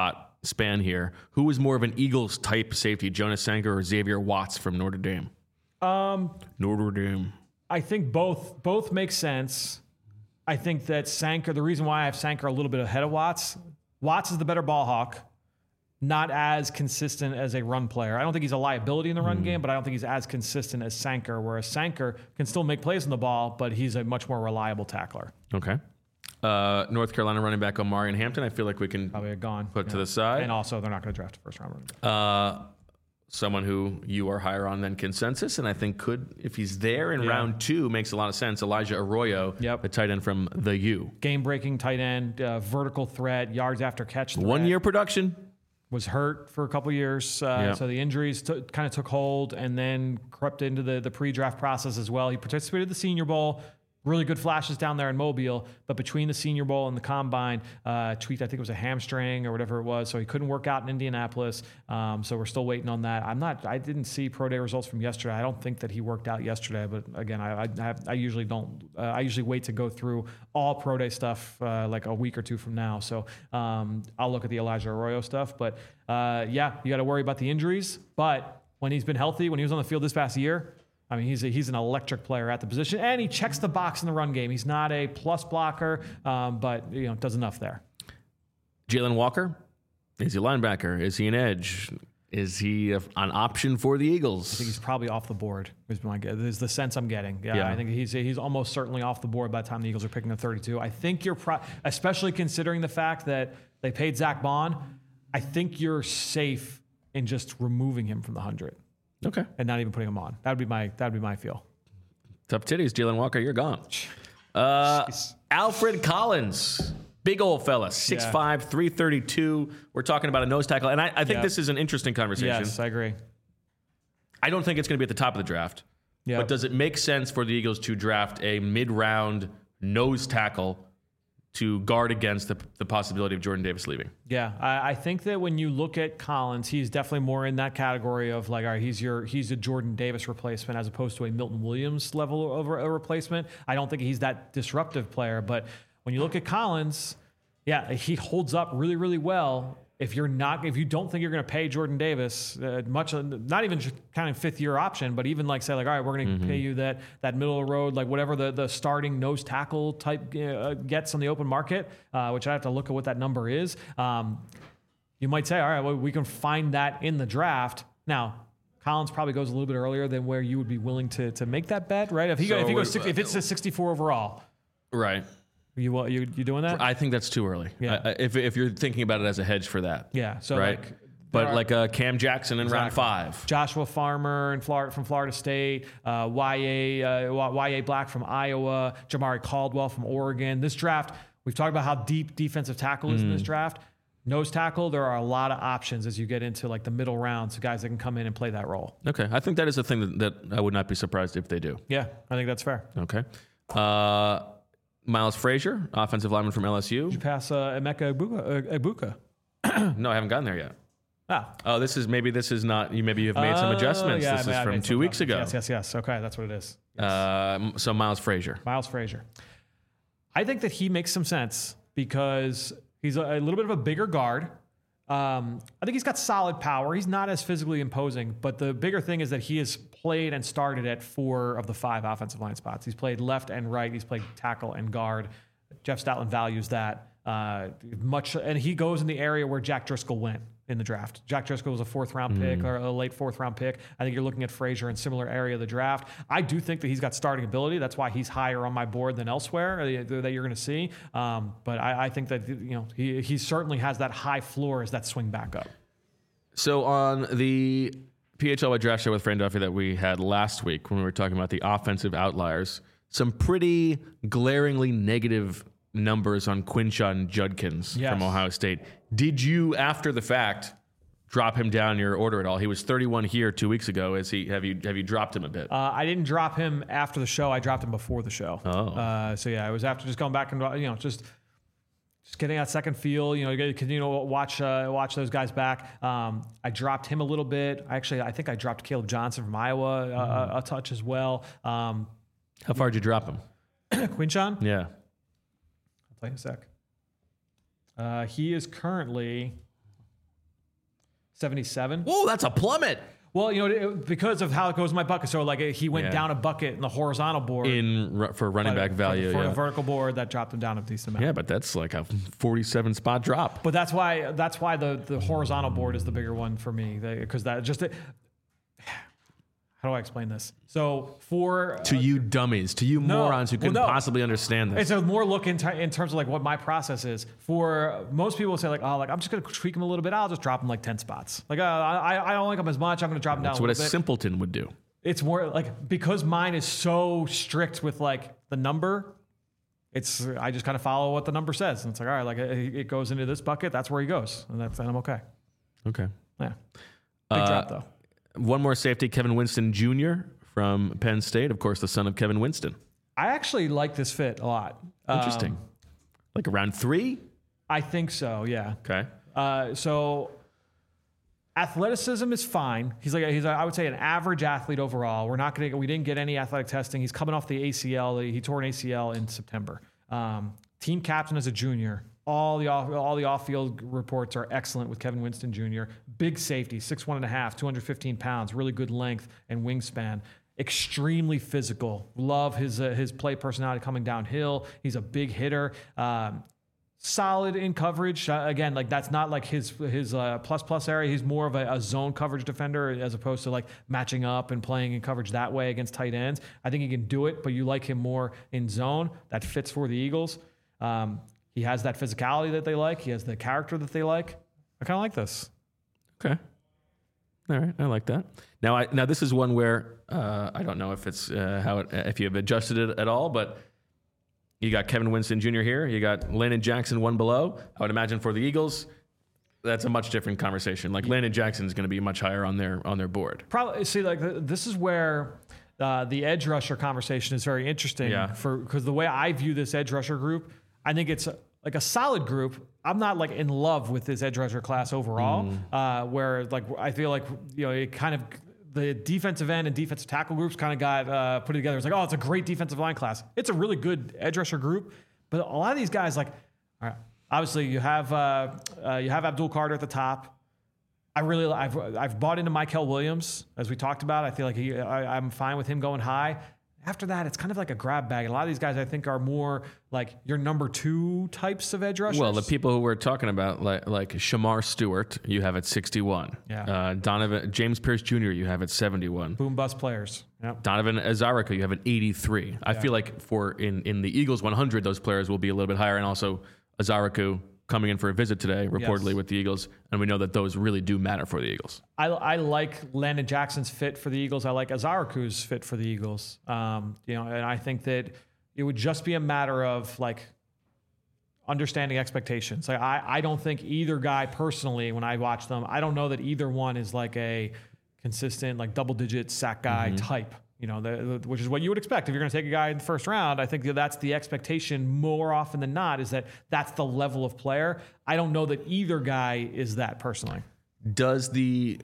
span here. Who is more of an Eagles type safety, Jonas Sanker or Xavier Watts from Notre Dame? Notre Dame. I think both make sense. I think that Sanker, the reason why I have Sanker a little bit ahead of Watts is the better ball hawk, not as consistent as a run player. I don't think he's a liability in the run game, but I don't think he's as consistent as Sanker, whereas Sanker can still make plays on the ball, but he's a much more reliable tackler. Okay. North Carolina running back Omarion Hampton, I feel like we can Probably gone. put to the side. And also, they're not going to draft a first-round running back. Someone who you are higher on than consensus, and I think could, if he's there in round 2, makes a lot of sense. Elijah Arroyo, the tight end from the U. Game-breaking tight end, vertical threat, yards after catch threat. 1 year production. Was hurt for a couple years, so the injuries kind of took hold and then crept into the pre-draft process as well. He participated in the Senior Bowl. Really good flashes down there in Mobile, but between the Senior Bowl and the Combine, tweaked, I think it was a hamstring or whatever it was, so he couldn't work out in Indianapolis. So we're still waiting on that. I didn't see pro day results from yesterday. I don't think that he worked out yesterday, but again, I usually don't. I usually wait to go through all pro day stuff like a week or two from now. So I'll look at the Elijah Arroyo stuff, but you got to worry about the injuries. But when he's been healthy, when he was on the field this past year, I mean, he's an electric player at the position, and he checks the box in the run game. He's not a plus blocker, but does enough there. Jalen Walker, is he a linebacker? Is he an edge? Is he an option for the Eagles? I think he's probably off the board. Is the sense I'm getting. Yeah, I think he's almost certainly off the board by the time the Eagles are picking at 32. I think especially considering the fact that they paid Zach Bond, I think you're safe in just removing him from the 100. Okay. And not even putting him on. That'd be my feel. Tough titties, Jalen Walker, you're gone. Alfred Collins, big old fella, 6'5", 332. We're talking about a nose tackle, and I think this is an interesting conversation. Yes, I agree. I don't think it's going to be at the top of the draft. Yep. But does it make sense for the Eagles to draft a mid-round nose tackle to guard against the possibility of Jordan Davis leaving? Yeah, I think that when you look at Collins, he's definitely more in that category of like, all right, he's a Jordan Davis replacement as opposed to a Milton Williams level of a replacement. I don't think he's that disruptive player, but when you look at Collins, he holds up really, really well. If you don't think you're going to pay Jordan Davis much, not even just kind of fifth year option, but even like say like, all right, we're going to pay you that middle of the road, like whatever the starting nose tackle type gets on the open market, which I have to look at what that number is. You might say, all right, well, we can find that in the draft. Now, Collins probably goes a little bit earlier than where you would be willing to make that bet, right? If it's a 64 overall, right? You doing that? I think that's too early. Yeah. If you're thinking about it as a hedge for that. Yeah. So right. But Cam Jackson in round 5. Joshua Farmer from Florida State, Y.A. Black from Iowa, Jamari Caldwell from Oregon. This draft, we've talked about how deep defensive tackle is in this draft. Nose tackle, there are a lot of options as you get into like the middle rounds, guys that can come in and play that role. Okay. I think that is a thing that I would not be surprised if they do. Yeah, I think that's fair. Okay. Miles Frazier, offensive lineman from LSU. Did you pass Emeka Egbuka? No, I haven't gotten there yet. Oh, this is not. Maybe you've made some adjustments. This is from 2 weeks ago. Yes. Okay, that's what it is. Yes. So Miles Frazier. I think that he makes some sense because he's a little bit of a bigger guard. I think he's got solid power. He's not as physically imposing, but the bigger thing is that he has played and started at 4 of the 5 offensive line spots. He's played left and right. He's played tackle and guard. Jeff Stoutland values that much, and he goes in the area where Jack Driscoll went in the draft. Jack Driscoll was a 4th-round pick or a late 4th-round pick. I think you're looking at Frazier in similar area of the draft. I do think that he's got starting ability. That's why he's higher on my board than elsewhere that you're going to see. But I think that he certainly has that high floor as that swing back up. So on the PHLY draft show with Fran Duffy that we had last week when we were talking about the offensive outliers, some pretty glaringly negative numbers on Quinshon Judkins from Ohio State. Did you, after the fact, drop him down your order at all? He was 31 here 2 weeks ago. Have you dropped him a bit? I didn't drop him after the show. I dropped him before the show. So it was after just going back and just getting that second feel. You continue to watch those guys back. I dropped him a little bit. I think I dropped Caleb Johnson from Iowa a touch as well. How far did you drop him? Quinshon? Yeah. I'll tell you in a sec. He is currently 77. Whoa, that's a plummet Well, because of how it goes in my bucket. So like he went down a bucket in the horizontal board for running back value. For the vertical board, that dropped him down a decent amount. Yeah, but that's like a 47 spot drop. But that's why the horizontal board is the bigger one for me, because that just. How do I explain this? So to you dummies, to you morons who couldn't possibly understand this. It's a more look in terms of like what my process is. For most people say like, I'm just going to tweak him a little bit. I'll just drop him like 10 spots. Like I don't like him as much. I'm going to drop him down. That's what a simpleton would do. It's more like, because mine is so strict with like the number. I just kind of follow what the number says, and it's like, all right, like it goes into this bucket. That's where he goes, and I'm okay. Okay. Yeah. Big drop though. One more safety, Kevin Winston Jr. from Penn State, of course, the son of Kevin Winston. I actually like this fit a lot. Interesting. Like around 3? I think so, yeah. Okay. So athleticism is fine. He's I would say an average athlete overall. We didn't get any athletic testing. He's coming off the ACL. He tore an ACL in September. Team captain as a junior. All the off-field reports are excellent with Kevin Winston Jr. Big safety, 6'1.5", 215 pounds, really good length and wingspan. Extremely physical. Love his play personality coming downhill. He's a big hitter. Solid in coverage. Again, like that's not like his plus area. He's more of a zone coverage defender as opposed to like matching up and playing in coverage that way against tight ends. I think he can do it, but you like him more in zone. That fits for the Eagles. He has that physicality that they like. He has the character that they like. I kind of like this. Okay. All right. I like that. Now this is one where I don't know if it's if you have adjusted it at all, but you got Kevin Winston Jr. here. You got Landon Jackson one below. I would imagine for the Eagles, that's a much different conversation. Like Landon Jackson is going to be much higher on their board. Probably. See, like this is where the edge rusher conversation is very interesting. Yeah. Because the way I view this edge rusher group, I think it's like a solid group. I'm not like in love with this edge rusher class overall, where like I feel like it kind of the defensive end and defensive tackle groups kind of got put together. It's like, it's a great defensive line class. It's a really good edge rusher group, but a lot of these guys, like, all right, obviously you have Abdul Carter at the top. I've bought into Mykel Williams, as we talked about. I feel like I'm fine with him going high. After that, it's kind of like a grab bag. And a lot of these guys, I think, are more like your number 2 types of edge rushers. Well, the people who we're talking about, like Shamar Stewart, you have at 61. Yeah. James Pierce Jr., you have at 71. Boom bust players. Yep. Donovan Azarica, you have at 83. Yeah. I feel like in the Eagles 100, those players will be a little bit higher. And also Azarica coming in for a visit today, reportedly with the Eagles, and we know that those really do matter for the Eagles. I like Landon Jackson's fit for the Eagles. I like Azariku's fit for the Eagles. And I think that it would just be a matter of like understanding expectations. Like I don't think either guy personally, when I watch them, I don't know that either one is like a consistent like double-digit sack guy type. Which is what you would expect if you're going to take a guy in the first round. I think that's the expectation more often than not, is that that's the level of player. I don't know that either guy is that personally. Does the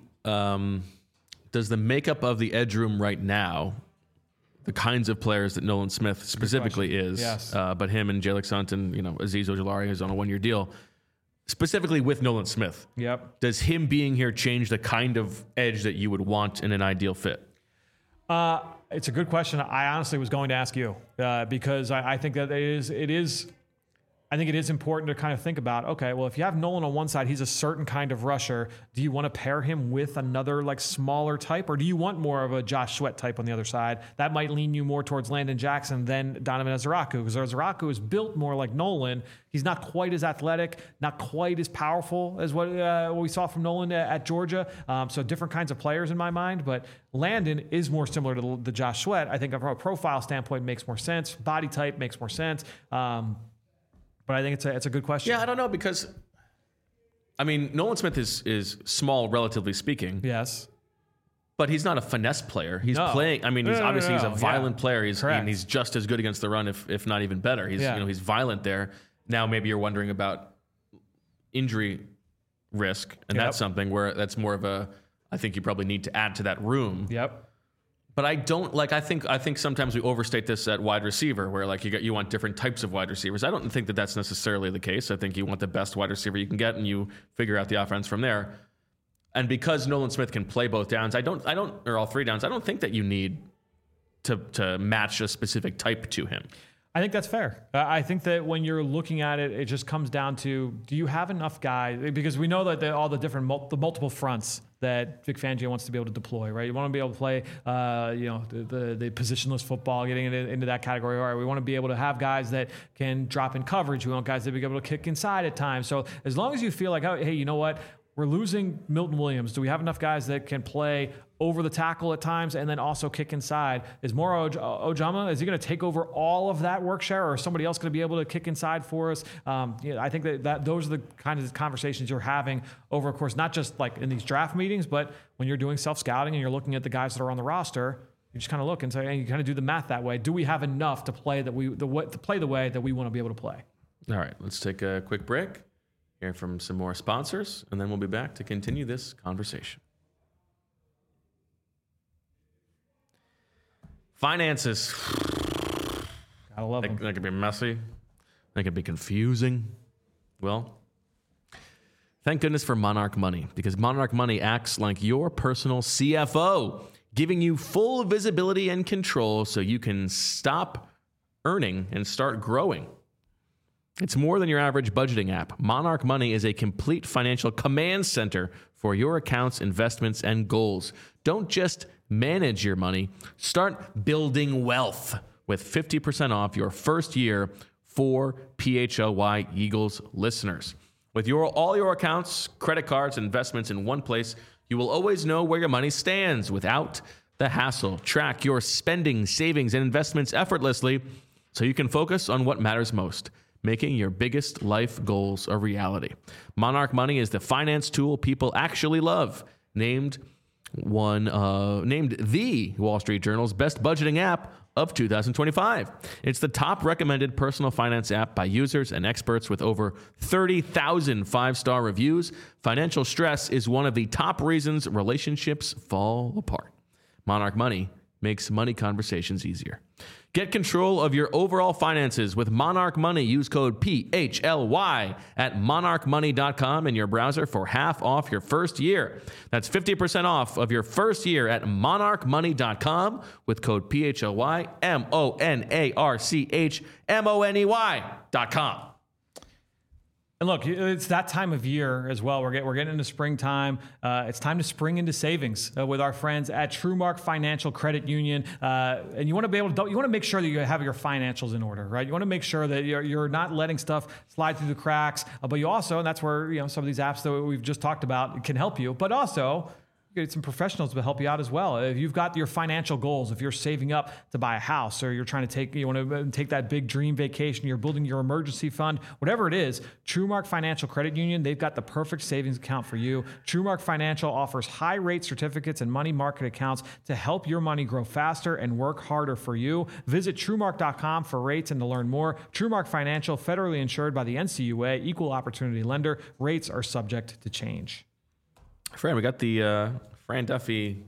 makeup of the edge room right now, the kinds of players that Nolan Smith specifically is, yes. But him and Jalen Saunton, Aziz Ojulari is on a 1-year deal, specifically with Nolan Smith. Yep. Does him being here change the kind of edge that you would want in an ideal fit? It's a good question. I honestly was going to ask you because I think that it is important to kind of think about, okay, well, if you have Nolan on one side, he's a certain kind of rusher. Do you want to pair him with another like smaller type, or do you want more of a Josh Sweat type on the other side? That might lean you more towards Landon Jackson than Donovan Ezaraku, because Ezaraku is built more like Nolan. He's not quite as athletic, not quite as powerful as what we saw from Nolan at Georgia. So different kinds of players in my mind, but Landon is more similar to the Josh Sweat. I think from a profile standpoint makes more sense. Body type makes more sense. But I think it's a good question. Yeah, I don't know, because Nolan Smith is small, relatively speaking. Yes. But he's not a finesse player. He's playing. He's obviously a violent player. He's just as good against the run, if not even better. He's violent there. Now maybe you're wondering about injury risk, and that's something where that's more of a. I think you probably need to add to that room. Yep. But I don't like. I think sometimes we overstate this at wide receiver, where like you want different types of wide receivers. I don't think that that's necessarily the case. I think you want the best wide receiver you can get, and you figure out the offense from there. And because Nolan Smith can play both downs, or all three downs, I don't think that you need to match a specific type to him. I think that's fair. I think that when you're looking at it, it just comes down to, do you have enough guys? Because we know that all the different the multiple fronts that Vic Fangio wants to be able to deploy, right? You want to be able to play, the positionless football, getting into that category. All right, we want to be able to have guys that can drop in coverage. We want guys that be able to kick inside at times. So as long as you feel like, oh, hey, you know what? We're losing Milton Williams. Do we have enough guys that can play over the tackle at times and then also kick inside? Is Moro Ojama, is he going to take over all of that work share, or is somebody else going to be able to kick inside for us? I think that those are the kind of conversations you're having over, of course, not just like in these draft meetings, but when you're doing self-scouting and you're looking at the guys that are on the roster, you just kind of look and say, and you kind of do the math that way. Do we have enough to play the way that we want to be able to play? All right, let's take a quick break. Hear from some more sponsors, and then we'll be back to continue this conversation. Finances. Gotta love them. That could be messy. That could be confusing. Well, thank goodness for Monarch Money, because Monarch Money acts like your personal CFO, giving you full visibility and control so you can stop earning and start growing. It's more than your average budgeting app. Monarch Money is a complete financial command center for your accounts, investments, and goals. Don't just manage your money. Start building wealth with 50% off your first year for PHLY Eagles listeners. With all your accounts, credit cards, investments in one place, you will always know where your money stands without the hassle. Track your spending, savings, and investments effortlessly so you can focus on what matters most, making your biggest life goals a reality. Monarch Money is the finance tool people actually love. Named the Wall Street Journal's best budgeting app of 2025. It's the top recommended personal finance app by users and experts with over 30,000 five-star reviews. Financial stress is one of the top reasons relationships fall apart. Monarch Money makes money conversations easier. Get control of your overall finances with Monarch Money. Use code PHLY at monarchmoney.com in your browser for half off your first year. That's 50% off of your first year at monarchmoney.com with code PHLY, monarchmoney.com. And look, it's that time of year as well. We're getting into springtime. It's time to spring into savings with our friends at TrueMark Financial Credit Union. And you want to be able to, you want to make sure that you have your financials in order, right? You want to make sure that you're not letting stuff slide through the cracks. But you also, and that's where some of these apps that we've just talked about can help you. But also, you get some professionals to help you out as well. If you've got your financial goals, if you're saving up to buy a house, or you're trying to you want to take that big dream vacation, you're building your emergency fund, whatever it is, TrueMark Financial Credit Union, they've got the perfect savings account for you. TrueMark Financial offers high rate certificates and money market accounts to help your money grow faster and work harder for you. Visit TrueMark.com for rates and to learn more. TrueMark Financial, federally insured by the NCUA, equal opportunity lender. Rates are subject to change. Fran, we got the Fran Duffy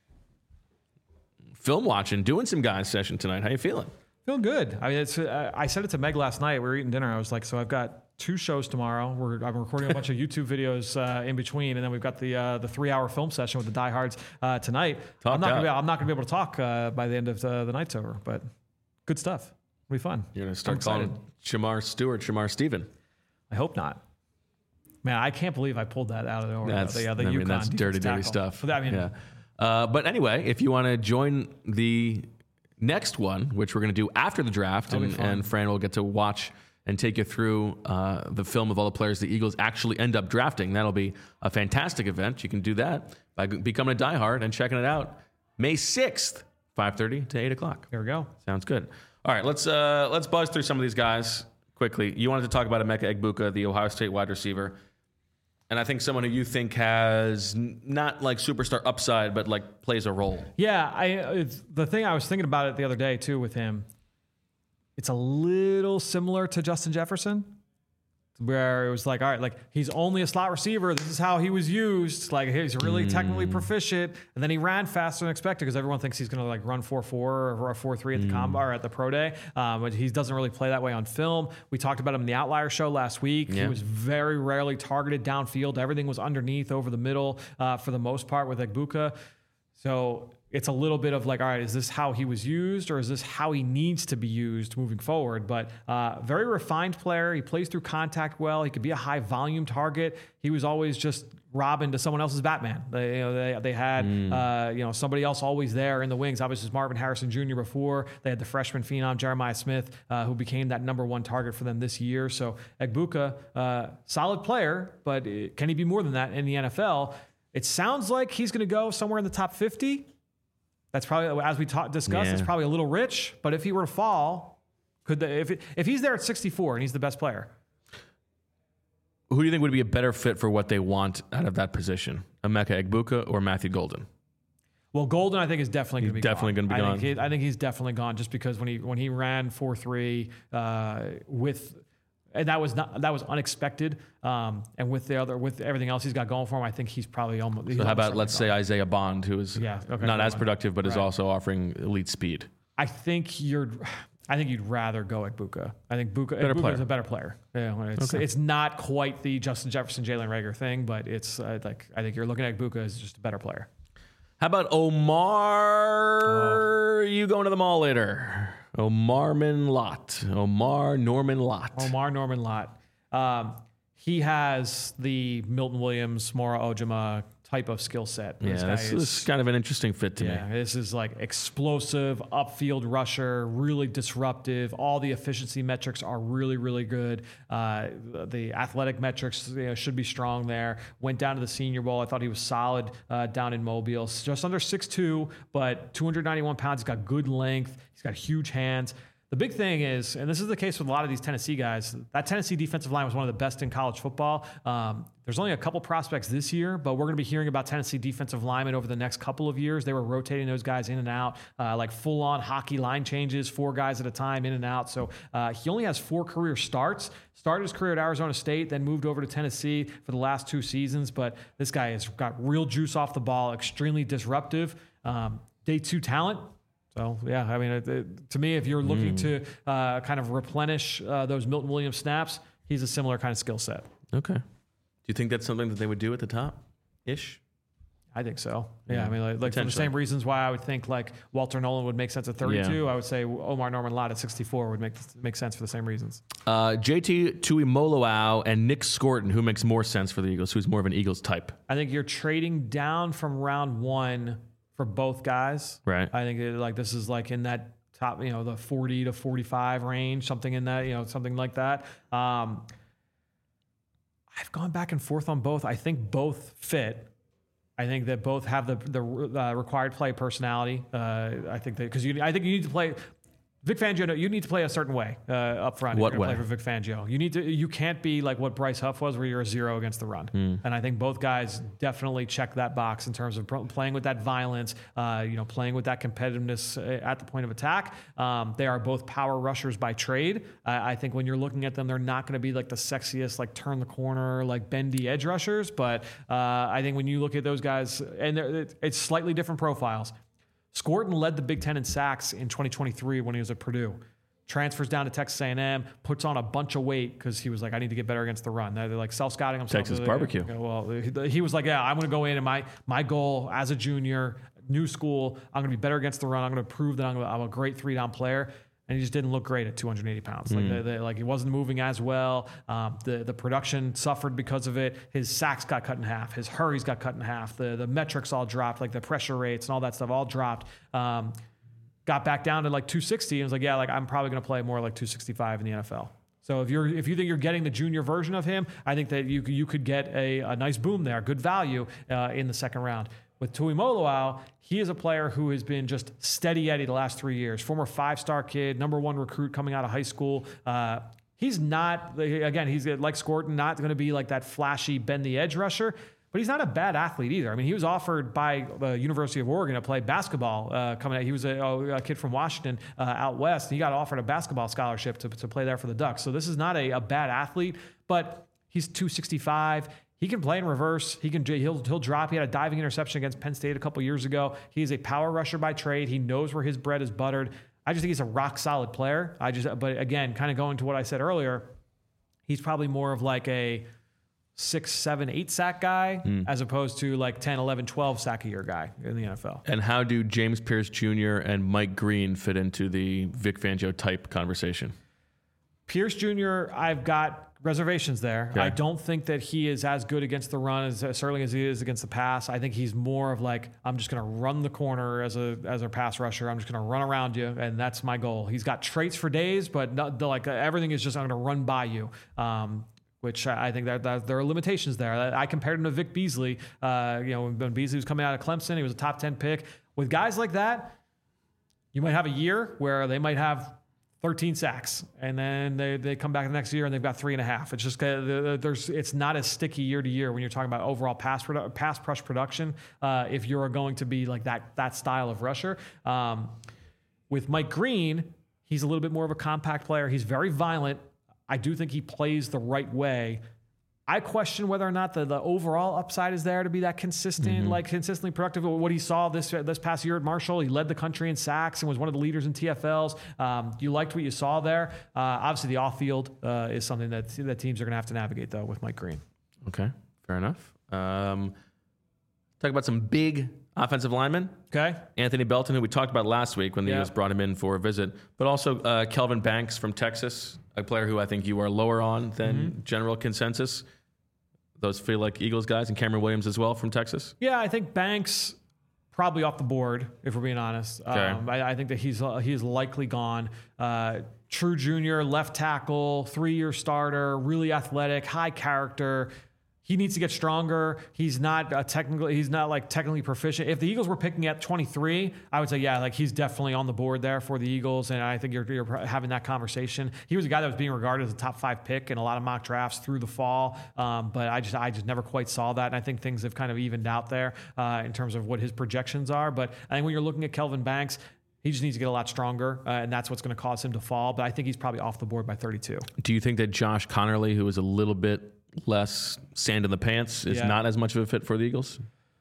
film watching, doing some guys session tonight. How you feeling? Feeling good. I mean, I said it to Meg last night. We were eating dinner. I was like, so I've got 2 shows tomorrow. I'm recording a bunch of YouTube videos in between, and then we've got the 3-hour film session with the diehards tonight. I'm not going to be able to talk by the end of the night's over, but good stuff. It'll be fun. You're going to start calling Shamar Stewart Shamar Steven. I hope not. Man, I can't believe I pulled that out of nowhere. That's dirty stuff. But anyway, if you want to join the next one, which we're going to do after the draft, and Fran will get to watch and take you through the film of all the players the Eagles actually end up drafting. That'll be a fantastic event. You can do that by becoming a diehard and checking it out May 6th, 5:30 to 8 o'clock. There we go. Sounds good. All right, let's buzz through some of these guys quickly. You wanted to talk about Emeka Egbuka, the Ohio State wide receiver. And I think someone who you think has not like superstar upside, but like plays a role. Yeah, the thing I was thinking about it the other day too with him. It's a little similar to Justin Jefferson. where it was like, all right, like he's only a slot receiver. This is how he was used. Like he's really technically proficient. And then he ran faster than expected because everyone thinks he's going to like run 4.4 or 4.3 at the combine or at the pro day. But he doesn't really play that way on film. We talked about him in the Outlier show last week. Yeah. He was very rarely targeted downfield. Everything was underneath over the middle for the most part with Egbuka. So it's a little bit of like, all right, is this how he was used or is this how he needs to be used moving forward? But very refined player. He plays through contact well. He could be a high volume target. He was always just Robin to someone else's Batman. They had somebody else always there in the wings. Obviously, it was Marvin Harrison Jr. before. They had the freshman phenom Jeremiah Smith, who became that number one target for them this year. So Egbuka, solid player, but can he be more than that in the NFL? It sounds like he's going to go somewhere in the top 50. That's probably, as we discussed, it's probably a little rich. But if he were to fall, if he's there at 64 and he's the best player, who do you think would be a better fit for what they want out of that position? Emeka Egbuka or Matthew Golden? Well, Golden, I think, is definitely going to be definitely going to be gone. I think he's definitely gone just because when he ran 4.3 and that was unexpected. And with everything else he's got going for him, I think he's probably almost. So how about let's say Isaiah Bond, who is not as productive, but is also offering elite speed. I think you'd rather go Egbuka. I think Egbuka is a better player. Yeah, it's not quite the Justin Jefferson, Jalen Reagor thing, but it's I think you're looking at Egbuka as just a better player. How about Omar? You going to the mall later? Omar Norman Lott. He has the Milton Williams, Mora Ojima type of skill set. This is kind of an interesting fit to me. This is like explosive, upfield rusher, really disruptive. All the efficiency metrics are really, really good. The athletic metrics should be strong there. Went down to the Senior Bowl. I thought he was solid down in Mobile. Just under 6'2", but 291 pounds. He's got good length. He's got huge hands. The big thing is, and this is the case with a lot of these Tennessee guys, that Tennessee defensive line was one of the best in college football. There's only a couple prospects this year, but we're going to be hearing about Tennessee defensive linemen over the next couple of years. They were rotating those guys in and out, like full-on hockey line changes, 4 guys at a time in and out. So he only has 4 career starts. Started his career at Arizona State, then moved over to Tennessee for the last 2 seasons. But this guy has got real juice off the ball, extremely disruptive. Day 2 talent. So, yeah, I mean, to me, if you're looking to kind of replenish those Milton Williams snaps, he's a similar kind of skill set. Okay. Do you think that's something that they would do at the top-ish? I think so. Yeah, I mean, like for the same reasons why I would think like Walter Nolan would make sense at 32, I would say Omar Norman Lott at 64 would make sense for the same reasons. JT Tuimoloau and Nick Scorton, who makes more sense for the Eagles? Who's more of an Eagles type? I think you're trading down from round 1 for both guys. Right. I think this is like in that top, the 40 to 45 range, something in that, something like that. I've gone back and forth on both. I think both fit. I think that both have the required play personality. I think you need to play. Vic Fangio, you need to play a certain way up front. What way? Play for Vic Fangio. You can't be like what Bryce Huff was, where you're a 0 against the run. And I think both guys definitely check that box in terms of playing with that violence, playing with that competitiveness at the point of attack. They are both power rushers by trade. I think when you're looking at them, they're not going to be like the sexiest, like turn the corner, like bendy edge rushers. But I think when you look at those guys, and it's slightly different profiles. Scorton led the Big Ten in sacks in 2023 when he was at Purdue. Transfers down to Texas A&M, puts on a bunch of weight because he was like, I need to get better against the run. They're like self-scouting himself. Texas barbecue. Well, he was like, I'm going to go in and my goal as a junior, new school, I'm going to be better against the run. I'm going to prove that I'm a great 3-down player. And he just didn't look great at 280 pounds. Like he wasn't moving as well. The production suffered because of it. His sacks got cut in half. His hurries got cut in half. The metrics all dropped, like the pressure rates and all that stuff all dropped. Got back down to like 260 and was like, I'm probably going to play more like 265 in the NFL. So if you think you're getting the junior version of him, I think that you could get a nice boom there, good value in the second round. With Tuimoloau, he is a player who has been just steady Eddie the last 3 years. Former 5-star kid, number 1 recruit coming out of high school. He's not, again, he's like Scorton, not going to be like that flashy bend the edge rusher, but he's not a bad athlete either. I mean, he was offered by the University of Oregon to play basketball coming out. He was a kid from Washington out west. He got offered a basketball scholarship to play there for the Ducks. So this is not a bad athlete, but he's 265. He can play in reverse. He'll drop. He had a diving interception against Penn State a couple years ago. He's a power rusher by trade. He knows where his bread is buttered. I just think he's a rock solid player. But again, kind of going to what I said earlier, he's probably more of like a 6, 7, 8 sack guy as opposed to like 10, 11, 12 sack a year guy in the NFL. And how do James Pierce Jr. and Mike Green fit into the Vic Fangio type conversation? Pierce Jr., I've got reservations there. Okay. I don't think that he is as good against the run as certainly as he is against the pass. I think he's more of like, I'm just going to run the corner as a pass rusher. I'm just going to run around you, and that's my goal. He's got traits for days, but everything is just I'm going to run by you. Which I think that there are limitations there. I compared him to Vic Beasley. When Beasley was coming out of Clemson, he was a top 10 pick. With guys like that, you might have a year where they might have 13 sacks, and then they come back the next year and they've got 3.5. It's just it's not as sticky year to year when you're talking about overall pass rush production. If you're going to be like that style of rusher, with Mike Green, he's a little bit more of a compact player. He's very violent. I do think he plays the right way. I question whether or not the overall upside is there to be that consistent, consistently productive. What he saw this past year at Marshall, he led the country in sacks and was one of the leaders in TFLs. You liked what you saw there. Obviously, the off-field is something that teams are going to have to navigate, though, with Mike Green. Okay, fair enough. Talk about some big offensive linemen. Okay. Anthony Belton, who we talked about last week when the Eagles brought him in for a visit, but also Kelvin Banks from Texas, a player who I think you are lower on than general consensus. Those feel like Eagles guys, and Cameron Williams as well from Texas. Yeah, I think Banks probably off the board, if we're being honest. Okay. I think that he's likely gone. True junior, left tackle, 3-year starter, really athletic, high character. He needs to get stronger. He's not technically proficient. If the Eagles were picking at 23, I would say, he's definitely on the board there for the Eagles. And I think you're having that conversation. He was a guy that was being regarded as a top 5 pick in a lot of mock drafts through the fall. But I just never quite saw that. And I think things have kind of evened out there in terms of what his projections are. But I think when you're looking at Kelvin Banks, he just needs to get a lot stronger, and that's what's going to cause him to fall. But I think he's probably off the board by 32. Do you think that Josh Connerly, who is a little bit less sand in the pants, is not as much of a fit for the Eagles?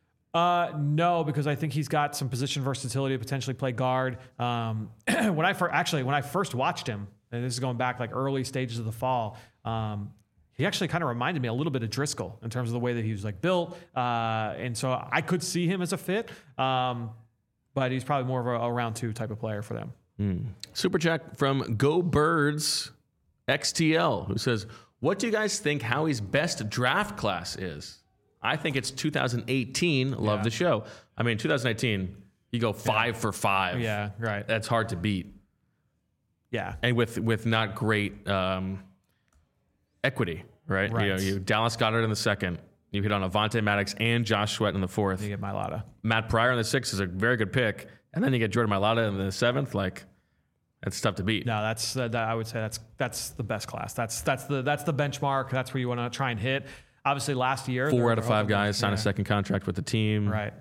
No, because I think he's got some position versatility to potentially play guard. When I first watched him, and this is going back like early stages of the fall, he actually kind of reminded me a little bit of Driscoll in terms of the way that he was like built. And so I could see him as a fit, but he's probably more of a round 2 type of player for them. Super chat from Go Birds XTL, who says, what do you guys think Howie's best draft class is? I think it's 2018. Love the show. I mean, 2018, you go 5 for 5. Yeah, right. That's hard to beat. Yeah. And with not great equity, right? You Dallas Goedert in the 2nd. You hit on Avonte Maddox and Josh Sweat in the 4th. You get Mailata. Matt Pryor in the 6th is a very good pick. And then you get Jordan Mailata in the 7th. Like, that's tough to beat. No, that's I would say that's the best class. That's the benchmark. That's where you want to try and hit. Obviously, last year 4 out of 5 guys sign a second contract with the team. Right.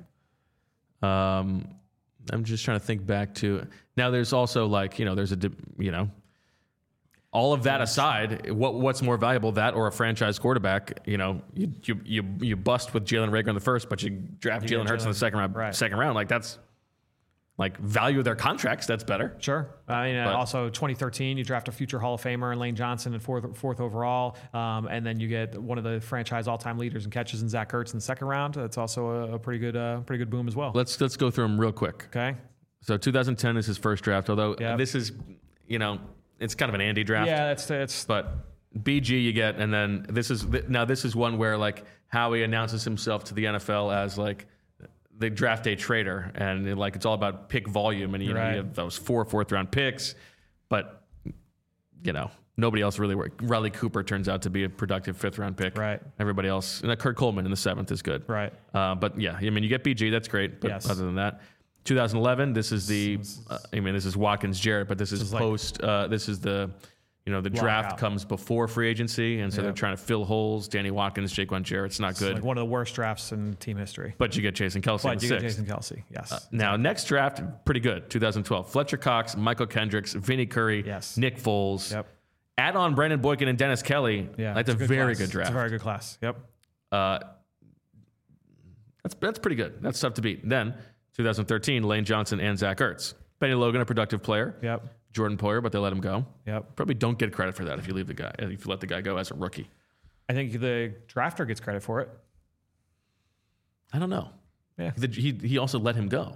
I'm just trying to think back to now. There's also there's all of that aside, what's more valuable, that or a franchise quarterback? You bust with Jalen Reagor in the 1st, but you draft Jalen Hurts in the second round. Right. Second round, like that's. Like value of their contracts, that's better. Sure. I mean, also 2013, you draft a future Hall of Famer in Lane Johnson in fourth overall, and then you get one of the franchise all-time leaders in catches in Zach Ertz in the 2nd round. That's also a pretty good boom as well. Let's go through them real quick. Okay. So 2010 is his first draft, although this is it's kind of an Andy draft. Yeah, it's. But BG you get, and then this is one where like Howie announces himself to the NFL as like the draft day trader, and it's all about pick volume, and you have those 4 4th-round picks, but nobody else really worked. Riley Cooper turns out to be a productive 5th-round pick. Right. Everybody else, and Kurt Coleman in the 7th is good. Right. But yeah, I mean, you get BG, that's great. But other than that, 2011, this is this is Watkins Jarrett, but this is post. This is the the draft comes before free agency, and so they're trying to fill holes. Danny Watkins, Jaquan Jarrett's not good. Like one of the worst drafts in team history. But you get Jason Kelce in the 6th. Get Jason Kelce, yes. Now, next draft, pretty good. 2012. Fletcher Cox, Michael Kendricks, Vinny Curry, Nick Foles. Yep. Add on Brandon Boykin and Dennis Kelly. Yeah, that's a very good draft. It's a very good class. Yep. That's pretty good. That's tough to beat. Then, 2013, Lane Johnson and Zach Ertz. Benny Logan, a productive player. Yep. Jordan Poyer, but they let him go. Yep. Probably don't get credit for that if you let the guy go as a rookie. I think the drafter gets credit for it. I don't know. Yeah. He also let him go.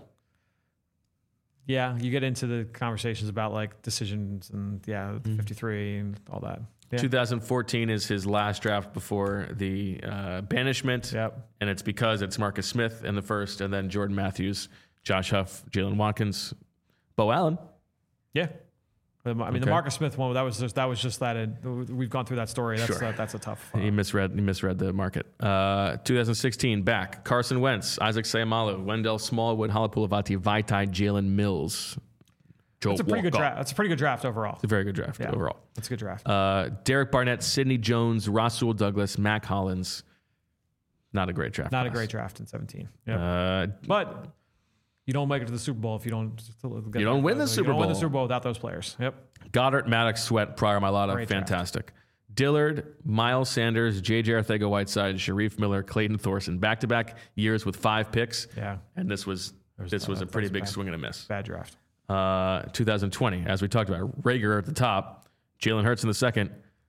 Yeah, you get into the conversations about like decisions and 53 and all that. Yeah. 2014 is his last draft before the banishment. Yep. And it's because it's Marcus Smith in the first, and then Jordan Matthews, Josh Huff, Jalen Watkins, Bo Allen. Yeah. I mean, the Marcus Smith one, that was just that. We've gone through that story. That's a tough. He misread the market. 2016, back. Carson Wentz, Isaac Seumalo, Wendell Smallwood, Halapoulivaati, Vaitai, Jalen Mills. That's a pretty good draft. That's a pretty good draft overall. It's a very good draft overall. That's a good draft. Derek Barnett, Sidney Jones, Rasul Douglas, Mac Hollins. Not a great draft. Not a great draft in 17. Yeah. But you don't make it to the Super Bowl if you don't. You don't win the Super Bowl. You don't win the Super Bowl without those players. Yep. Goddard, Maddox, Sweat, Pryor, Mailata, fantastic. Draft. Dillard, Miles Sanders, J.J. Arcega-Whiteside, Sharif Miller, Clayton Thorson, back-to-back years with 5 picks. Yeah. And this was a pretty big swing and a miss. Bad draft. 2020, as we talked about, Rager at the top, Jalen Hurts in the second,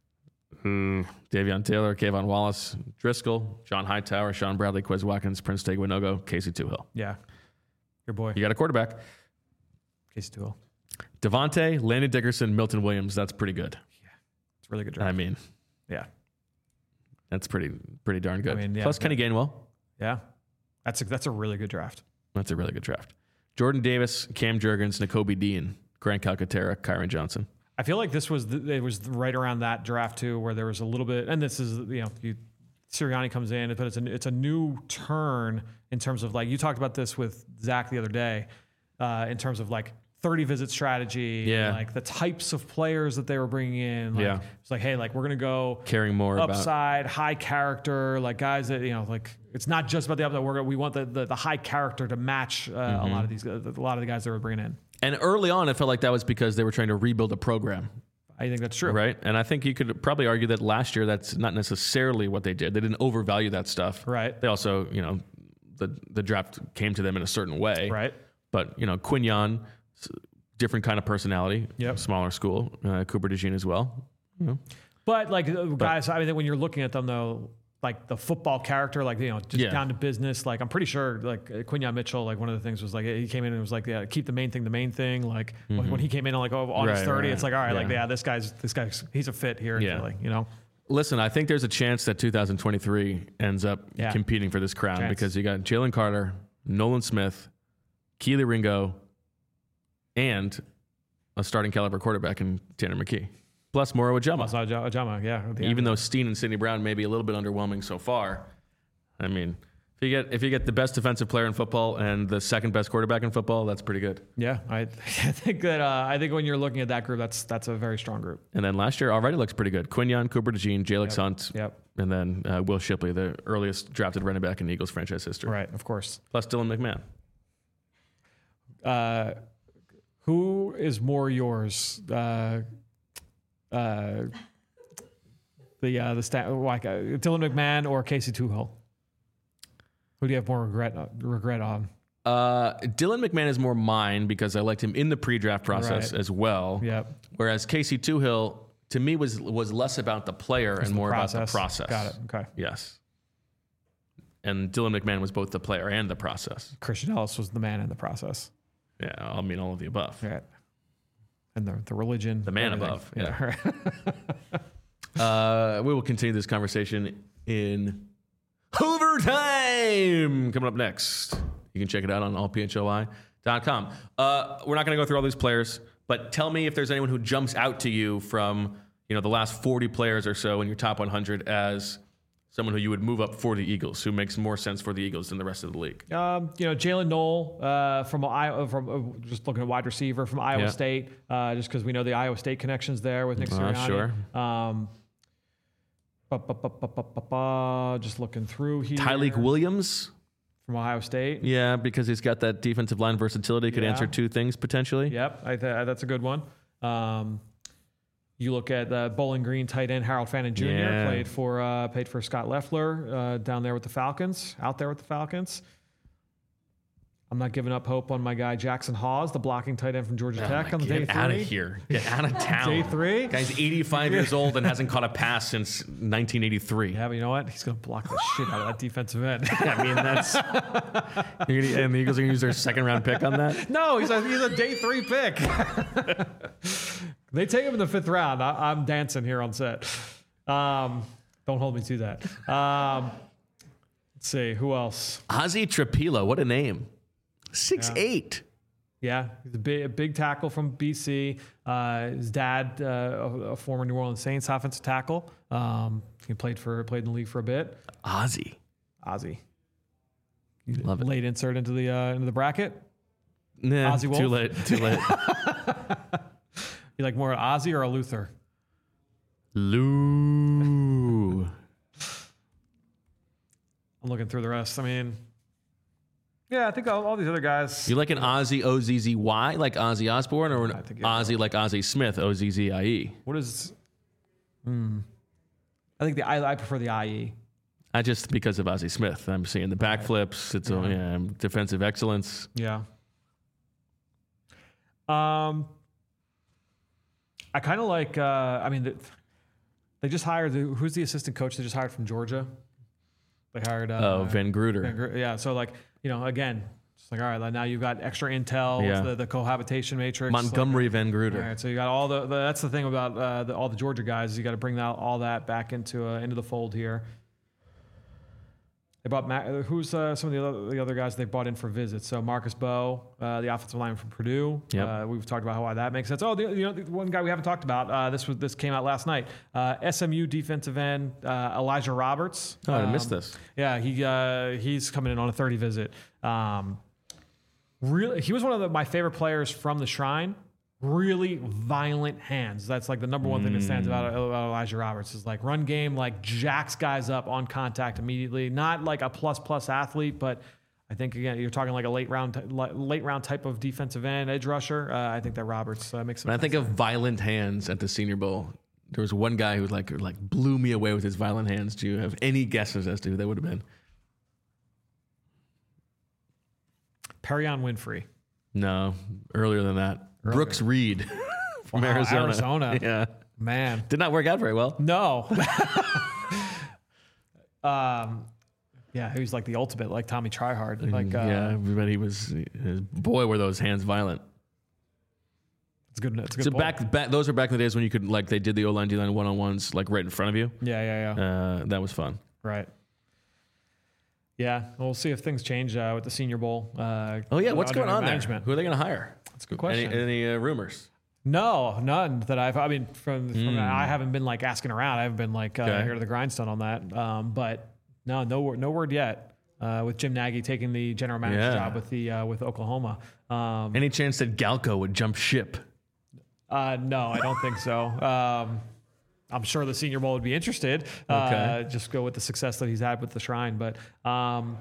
Davion Taylor, Kayvon Wallace, Driscoll, John Hightower, Sean Bradley, Quez Watkins, Prince Teguinogo, Casey Tuhill. Yeah. Your boy. You got a quarterback. Casey Tuhill. Devontae, Landon Dickerson, Milton Williams. That's pretty good. Yeah. It's really good draft. I mean, yeah. That's pretty darn good. I mean, Plus Kenny Gainwell. Yeah. That's a really good draft. That's a really good draft. Jordan Davis, Cam Jurgens, Nakobe Dean, Grant Calcaterra, Kyron Johnson. I feel like it was right around that draft too, where there was a little bit, and this is Sirianni comes in, but it's a new turn in terms of like you talked about this with Zach the other day, in terms of like 30 visit strategy, like the types of players that they were bringing in. Like, it's like, hey, like we're gonna go caring more upside, high character, like guys that like it's not just about the upside. We want the high character to match a lot of the guys that we're bringing in. And early on, it felt like that was because they were trying to rebuild a program. I think that's true. Right. And I think you could probably argue that last year, that's not necessarily what they did. They didn't overvalue that stuff. Right. They also, the draft came to them in a certain way. Right. But, Quinyon, different kind of personality. Yep. Smaller school. Cooper DeJean as well. But guys, I mean, when you're looking at them though, like the football character, like, just down to business. Like, I'm pretty sure like Quinyon Mitchell, like one of the things was like, he came in and was like, keep the main thing the main thing. Like when he came in on August 30, it's like, all right, this guy's, he's a fit here in Philly, Listen, I think there's a chance that 2023 ends up competing for this crown because you got Jalen Carter, Nolan Smith, Keely Ringo, and a starting caliber quarterback in Tanner McKee. Plus Moro Ujama. Yeah. Even though Steen and Sidney Brown may be a little bit underwhelming so far, I mean, if you get the best defensive player in football and the second best quarterback in football, that's pretty good. Yeah, I think when you're looking at that group, that's a very strong group. And then last year already looks pretty good. Quinyon, Cooper DeJean, Jalen Hunt, and then Will Shipley, the earliest drafted running back in Eagles franchise history. Right, of course. Plus Dylan McMahon. Who is more yours? Dylan McMahon or Casey Tuhill? Who do you have more regret on? Dylan McMahon is more mine because I liked him in the pre-draft process as well. Yep. Whereas Casey Tuhill, to me, was less about the player and more about the process. Got it. Okay. Yes. And Dylan McMahon was both the player and the process. Christian Ellis was the man in the process. Yeah, I mean all of the above. Right. And the religion. The man above. Yeah. We will continue this conversation in overtime. Coming up next. You can check it out on allphoi.com. We're not going to go through all these players, but tell me if there's anyone who jumps out to you from the last 40 players or so in your top 100 as Someone who you would move up for the Eagles, who makes more sense for the Eagles than the rest of the league. Jalen Knoll from Iowa, just looking at wide receiver from Iowa State, just because we know the Iowa State connections there with Nick Sirianni. Sure. Just looking through here. Tyleik Williams from Ohio State. Yeah, because he's got that defensive line versatility. Could answer two things potentially. Yep, that's a good one. You look at the Bowling Green tight end Harold Fannin Jr. Paid for Scott Loeffler down there with the Falcons. Out there with the Falcons. I'm not giving up hope on my guy Jackson Hawes, the blocking tight end from Georgia Tech on day 3. Get out of here. Get out of town. Day 3. Guy's 85 years old and hasn't caught a pass since 1983. Yeah, but you know what? He's going to block the shit out of that defensive end. I mean, that's... and the Eagles are going to use their second-round pick on that? No, he's a day 3 pick. They take him in the 5th round. I'm dancing here on set. Don't hold me to that. Let's see. Who else? Ozzy Trapilo. What a name. 6'8". Yeah, he's a big tackle from BC. His dad, a former New Orleans Saints offensive tackle. He played in the league for a bit. Ozzy. Love it. Late insert into the bracket. Nah, Ozzy Wolf? Too late. You like more an Ozzy or a Luther? Lou. I'm looking through the rest. I mean, yeah, I think all these other guys. You like an Ozzy O-Z-Z-Y, like Ozzy Osbourne, or an Ozzy like Ozzy Smith, O-Z-Z-I-E? What is... I think I prefer the IE. I just, because of Ozzy Smith. I'm seeing the backflips. It's defensive excellence. Yeah. I kind of like, they just hired, who's the assistant coach they just hired from Georgia? They hired... Van Gruder. Yeah, so again, it's like, all right, now you've got extra intel with the cohabitation matrix. Montgomery Van Gruder. All right, so you got all that's the thing about all the Georgia guys. You got to bring all that back into the fold here. They brought who's some of the other guys they brought in for visits. So Marcus Bowe, the offensive lineman from Purdue. Yep. We've talked about why that makes sense. The one guy we haven't talked about. This came out last night. SMU defensive end Elijah Roberts. Oh, I missed this. Yeah, he's coming in on a 30 visit. Really, he was one of my favorite players from the Shrine. Really violent hands. That's like the number one thing that stands about Elijah Roberts is like run game, like jacks guys up on contact immediately. Not like a plus athlete, but I think again you're talking like a late round type of defensive end edge rusher. I think that Roberts makes. When I think of violent hands at the Senior Bowl, there was one guy who like blew me away with his violent hands. Do you have any guesses as to who that would have been? Perrion Winfrey. No, earlier than that. Brooks Reed from Arizona. Yeah. Man. Did not work out very well. No. Yeah, he was like the ultimate, like Tommy Tryhard. Like, everybody was, boy, were those hands violent. It's good. It's a good. So back, those were back in the days when you could, like, they did the O-line, D-line one-on-ones, like, right in front of you. Yeah. That was fun. Right. Yeah, we'll see if things change with the Senior Bowl. What's going on there? Who are they going to hire? That's a good question. Any rumors? No, none that from I haven't been like asking around. I haven't been like here to the grindstone on that. But no word yet. With Jim Nagy taking the general manager job with Oklahoma. Any chance that Galco would jump ship? No, I don't think so. I'm sure the Senior Bowl would be interested. Just go with the success that he's had with the Shrine. But from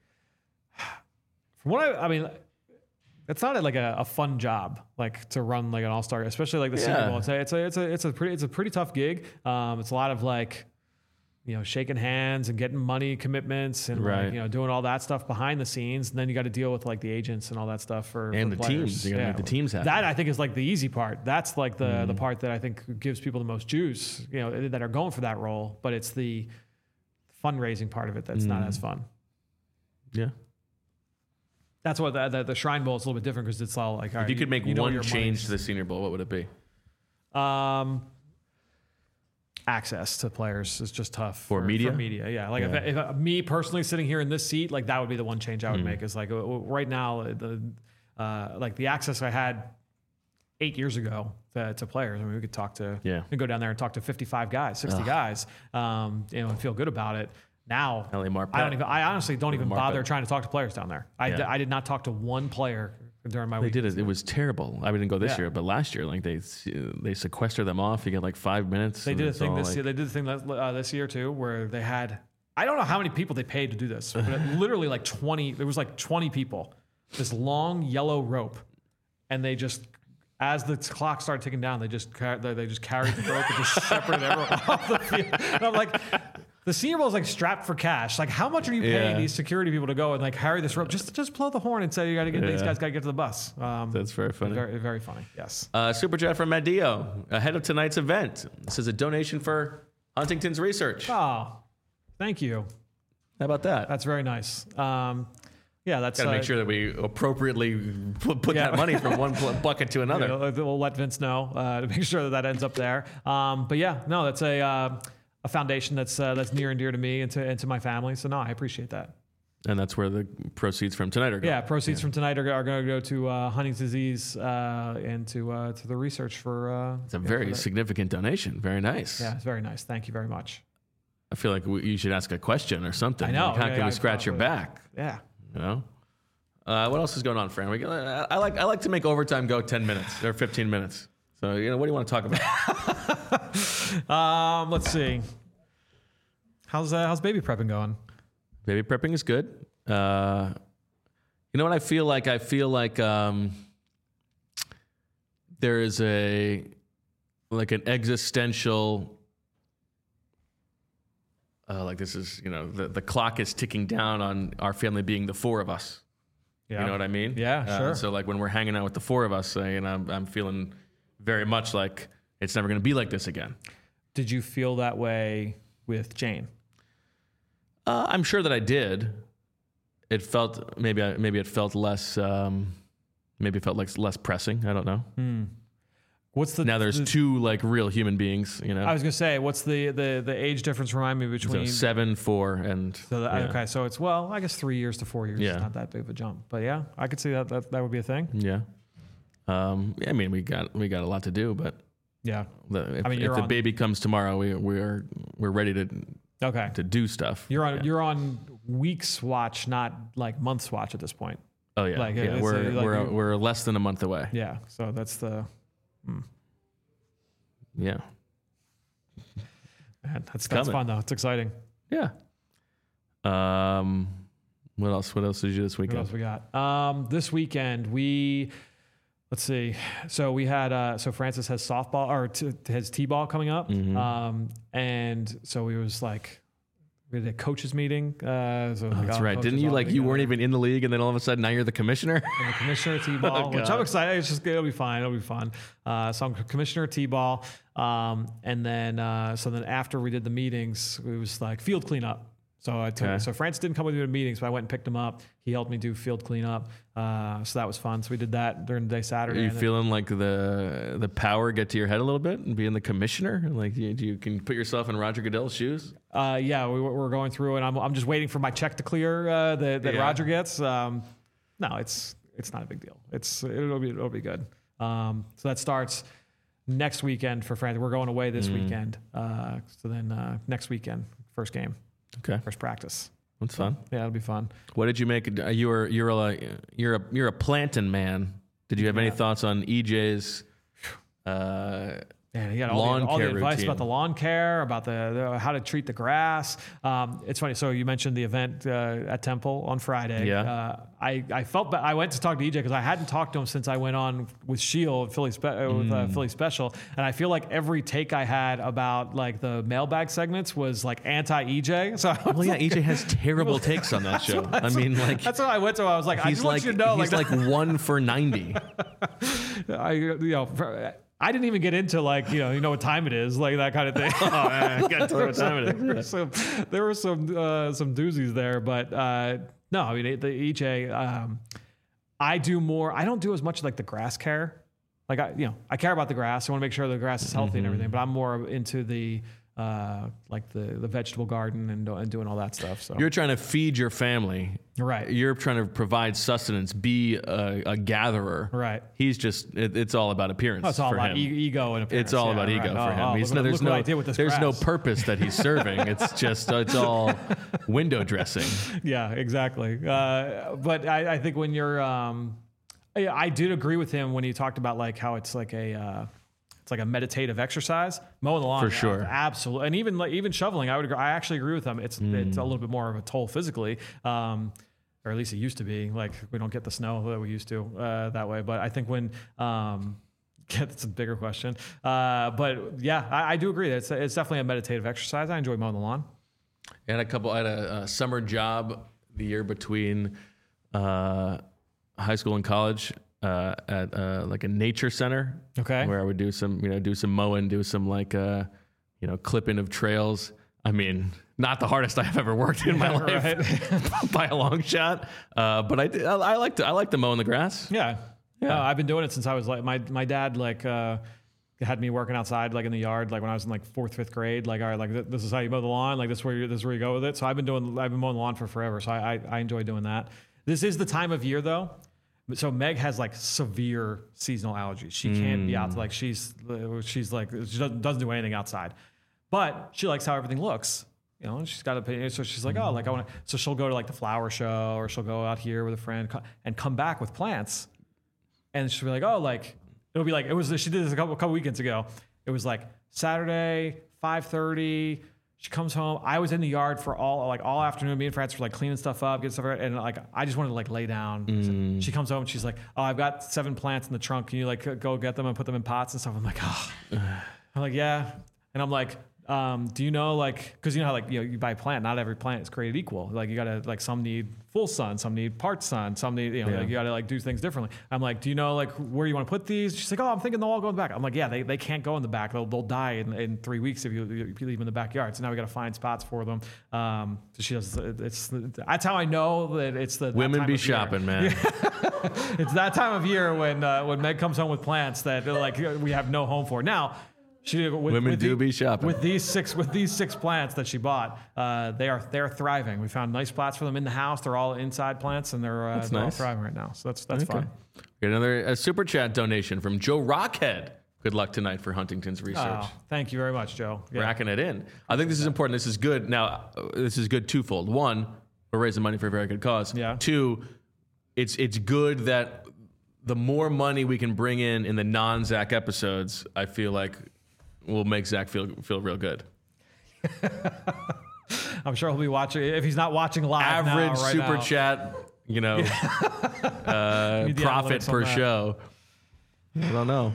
what I mean, it's not like a fun job, like to run like an all-star, especially like the Senior Bowl. It's a pretty tough gig. It's a lot of like, shaking hands and getting money commitments and like, doing all that stuff behind the scenes. And then you got to deal with like the agents and all that stuff for the players. Teams. You got to make the teams happy. That I think is like the easy part. That's like the part that I think gives people the most juice, that are going for that role. But it's the fundraising part of it that's not as fun. Yeah. That's what the Shrine Bowl is a little bit different because it's all like, all right, if you could make one change to the Senior Bowl, what would it be? Access to players is just tough for media. For media, yeah. Like if me personally sitting here in this seat, like that would be the one change I would make. Is like right now, like the access I had 8 years ago to players. I mean, we could we could go down there and talk to 55 guys, 60 guys, and feel good about it. Now, I honestly don't even bother trying to talk to players down there. I did not talk to one player during my week. They did it. It was terrible. I didn't go this year, but last year, like they sequester them off. You get like 5 minutes. They did a thing this year. They did a thing this year too, where they had, I don't know how many people they paid to do this, but literally like 20. There was like 20 people. This long yellow rope, and they just, as the clock started ticking down, they just carried the rope and just separated everyone off the field. And I'm like, the Senior Bowl is like strapped for cash. Like, how much are you paying these security people to go and like carry this rope? Just blow the horn and say these guys got to get to the bus. That's very funny. Very, very funny. Yes. Super chat from Madio ahead of tonight's event. This is a donation for Huntington's research. Oh, thank you. How about that? That's very nice. That's gotta make sure that we appropriately put that money from one bucket to another. We'll let Vince know to make sure that ends up there. That's a foundation that's near and dear to me and to my family. So no, I appreciate that. And that's where the proceeds from tonight are going. Yeah, proceeds from tonight are going to go to Huntington's disease and to the research for. It's a very significant donation. Very nice. Yeah, it's very nice. Thank you very much. I feel like you should ask a question or something. I know. Like, how can we scratch your back? Yeah. You know. What else is going on, Fran? I like to make overtime go 10 minutes or 15 minutes. So what do you want to talk about? Let's see. How's baby prepping going? Baby prepping is good. You know what I feel like? I feel like there is an existential. Like this is, the clock is ticking down on our family being the four of us. Yeah. You know what I mean? Yeah, sure. So like when we're hanging out with the four of us, I'm feeling very much like it's never going to be like this again. Did you feel that way with Jane? I'm sure that I did. It felt maybe it felt less. Maybe it felt like less pressing. I don't know. Now there's two like real human beings. I was gonna say, what's the age difference? Remind me between 7, 4, and okay. So it's I guess 3 years to 4 years. Yeah. Is not that big of a jump, but yeah, I could see that would be a thing. Yeah. I mean, we got a lot to do, but yeah. If the baby comes tomorrow, we're ready to do stuff. You're on weeks watch, not like months watch at this point. Oh yeah, we're less than a month away. Yeah, so that's the. Yeah. Man, that's fun though. It's exciting. Yeah. What else did you do this weekend? What else we got? This weekend let's see. So we had Francis has softball or has t-ball coming up. Mm-hmm. And so we had a coaches meeting. That's right. Didn't you you weren't even in the league, and then all of a sudden now you're the commissioner? I'm the commissioner of t-ball, which I'm excited. It'll be fine. It'll be fun. So I'm commissioner of t-ball, and then after we did the meetings, it was like field cleanup. So so Francis didn't come with me to meetings, but I went and picked him up. He helped me do field cleanup. So that was fun. So we did that during the day Saturday. Are you feeling like the power get to your head a little bit and being the commissioner? Like you can put yourself in Roger Goodell's shoes? Yeah, we're going through, and I'm just waiting for my check to clear that Roger gets. No, it's not a big deal. It'll be good. So that starts next weekend for Francis. We're going away this weekend. So then next weekend, first game. Okay. First practice. That's fun. Yeah, it'll be fun. What did you make? You're a planting man. Did you have any thoughts on EJ's he got all the advice routine about the lawn care, about the how to treat the grass. It's funny. So you mentioned the event at Temple on Friday. Yeah. I felt I went to talk to EJ because I hadn't talked to him since I went on with Shield Philly Philly Special, and I feel like every take I had about like the mailbag segments was like anti EJ. So EJ has terrible takes on that show. I mean, like that's what I went to. I was like, I just want you to know, he's like 1 for 90. I didn't even get into you know what time it is, like that kind of thing. Oh man, I got to tell you what time it is. There were some doozies there, but no, I mean the EJ. I don't do as much like the grass care. Like I care about the grass. I want to make sure the grass is healthy and everything, but I'm more into the like the vegetable garden and doing all that stuff. So You're trying to feed your family. right. You're trying to provide sustenance, be a gatherer. Right. He's just, it's all about appearance Oh, it's all for about him. ego and appearance. It's all Yeah, about ego right. for him. He's Look what I did with this there's no grass. purpose that he's serving. It's just, it's all window dressing. Yeah, exactly. But I think when you're, I did agree with him when he talked about like how it's like a meditative exercise. Mowing the lawn, For sure. absolutely, and even shoveling. I actually agree with him. It's a little bit more of a toll physically, or at least it used to be. Like we don't get the snow that we used to that way. But I think when that's a bigger question. But yeah, I do agree. It's definitely a meditative exercise. I enjoy mowing the lawn. I had a summer job the year between high school and college at like a nature center. Okay. Where I would do some mowing, do some like clipping of trails. I mean, not the hardest I've ever worked in my life by a long shot. But I like to mow in the grass. Yeah. Yeah. I've been doing it since I was like, my dad like had me working outside like in the yard, like when I was in like 4th, 5th grade, like, all right, like this is how you mow the lawn. Like this is where you go with it. So I've been mowing the lawn for forever. So I enjoy doing that. This is the time of year though. So Meg has like severe seasonal allergies. She can't be out to like, she's like, she doesn't do anything outside, but she likes how everything looks. You know, she's got opinion. So she's like, oh, like I want to, so she'll go to like the flower show or she'll go out here with a friend and come back with plants. And she'll be like, oh, like, it'll be like, she did this a couple weekends ago. It was like Saturday, 5:30. She comes home. I was in the yard for all afternoon. Me and Francis were like cleaning stuff up, getting stuff right. And like, I just wanted to like lay down. So she comes home and she's like, oh, I've got 7 plants in the trunk. Can you like go get them and put them in pots and stuff? I'm like, oh, I'm like, yeah. And I'm like, do you know, like, cause you know how like, you buy a plant, not every plant is created equal. Like you gotta, like some need full sun, some need part sun, some need, like you gotta like do things differently. I'm like, do you know like where you want to put these? She's like, oh, I'm thinking they'll all go in the back. I'm like, yeah, they can't go in the back. They'll die in 3 weeks if you leave them in the backyard. So now we got to find spots for them. So she does, that's how I know that it's the Women be shopping, man. It's that time of year when Meg comes home with plants that like we have no home for. Now, Women do be shopping. With these 6 plants that she bought. They're thriving. We found nice spots for them in the house. They're all inside plants and they're all thriving right now. So that's fun. We got another super chat donation from Joe Rockhead. Good luck tonight for Huntington's research. Oh, thank you very much, Joe. Yeah. Racking it in. I think this is important. This is good. Now, this is good twofold. One, we're raising money for a very good cause. Yeah. 2, it's good that the more money we can bring in the non-Zach episodes, I feel like will make Zach feel real good. I'm sure he'll be watching. If he's not watching live, Average right super now. chat, profit per show. I don't know.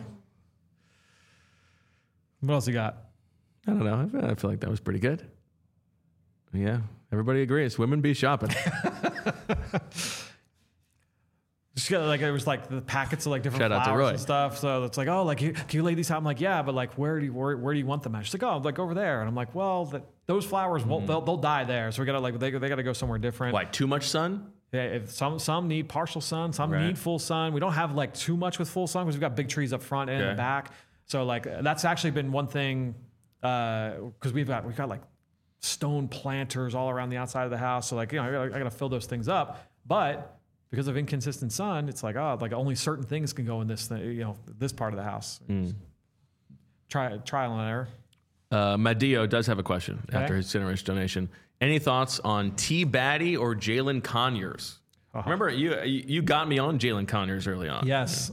What else you got? I don't know. I feel like that was pretty good. Yeah, everybody agrees. Women be shopping. Just like it was like the packets of like different Shout out to flowers Roy. and stuff. So it's like, oh, like can you lay these out? I'm like, yeah, but like where do you want them at? She's like, oh, like over there. And I'm like, well, those flowers won't they'll die there. So we gotta like they gotta go somewhere different. Why? Too much sun? Yeah, if some need partial sun, some Right. need full sun. We don't have like too much with full sun because we've got big trees up front and in the back. So like that's actually been one thing because we've got like stone planters all around the outside of the house. So like I gotta fill those things up, but because of inconsistent sun, it's like, oh, like only certain things can go in this thing, this part of the house. Trial and error. Madio does have a question after his generous donation. Any thoughts on T. Batty or Jalen Conyers? Remember, you got me on Jalen Conyers early on. Yes.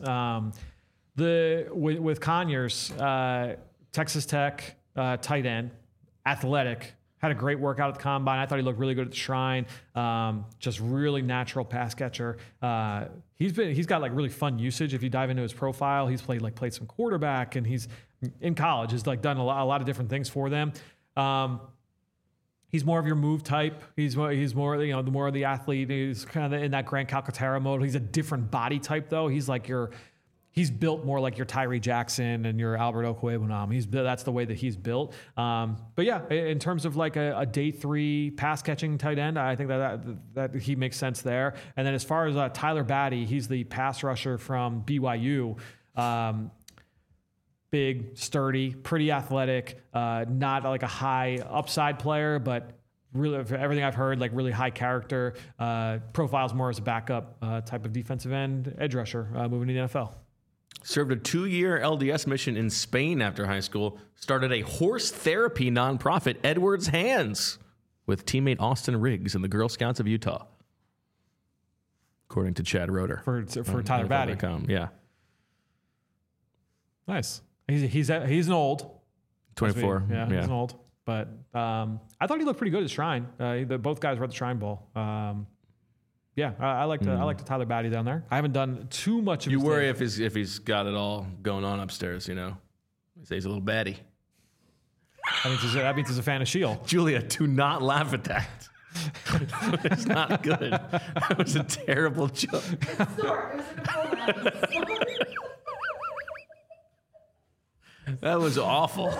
With Conyers, Texas Tech tight end, athletic. Had a great workout at the combine. I thought he looked really good at the Shrine. Just really natural pass catcher. He's got like really fun usage. If you dive into his profile, he's played some quarterback, and he's in college has like done a lot of different things for them. He's more of your move type. He's more the more of the athlete. He's kind of in that Grant Calcaterra mode. He's a different body type though. He's built more like your Tyree Jackson and your Albert Okwuegbunam. That's the way that he's built. But yeah, in terms of like a day 3 pass catching tight end, I think that he makes sense there. And then as far as Tyler Batty, he's the pass rusher from BYU. big, sturdy, pretty athletic, not like a high upside player, but really, for everything I've heard, like really high character, profiles more as a backup type of defensive end, edge rusher, moving to the NFL. Served a 2-year LDS mission in Spain after high school. Started a horse therapy nonprofit, Edward's Hands, with teammate Austin Riggs and the Girl Scouts of Utah. According to Chad Roeder. For Tyler Batty. Yeah. Nice. He's an old. 24. Yeah, he's an old. But I thought he looked pretty good at Shrine. Both guys were at the Shrine Bowl. I like the Tyler Batty down there. I haven't done too much of. You worry if he's got it all going on upstairs. You know, he says he's a little batty. That means he's a fan of Shield. Julia, do not laugh at that. It's not good. That was a terrible joke. That was awful.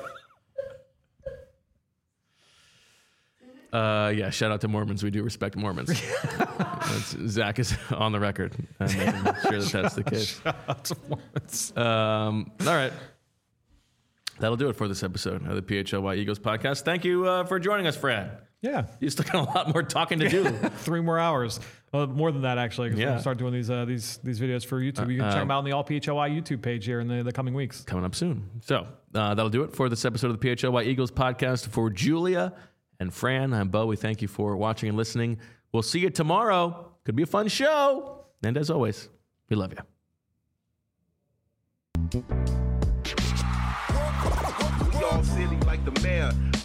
Shout out to Mormons. We do respect Mormons. Zach is on the record, making sure that's the case. Shout out to Mormons. All right. That'll do it for this episode of the PHLY Eagles podcast. Thank you for joining us, Fran. Yeah. You still got a lot more talking to do. 3 more hours. More than that, actually, because we'll start doing these videos for YouTube. You can check them out on the All PHLY YouTube page here in the coming weeks. Coming up soon. So that'll do it for this episode of the PHLY Eagles podcast. For Julia and Fran, I'm Bo. We thank you for watching and listening. We'll see you tomorrow. Could be a fun show. And as always, we love you. We all silly like the mayor.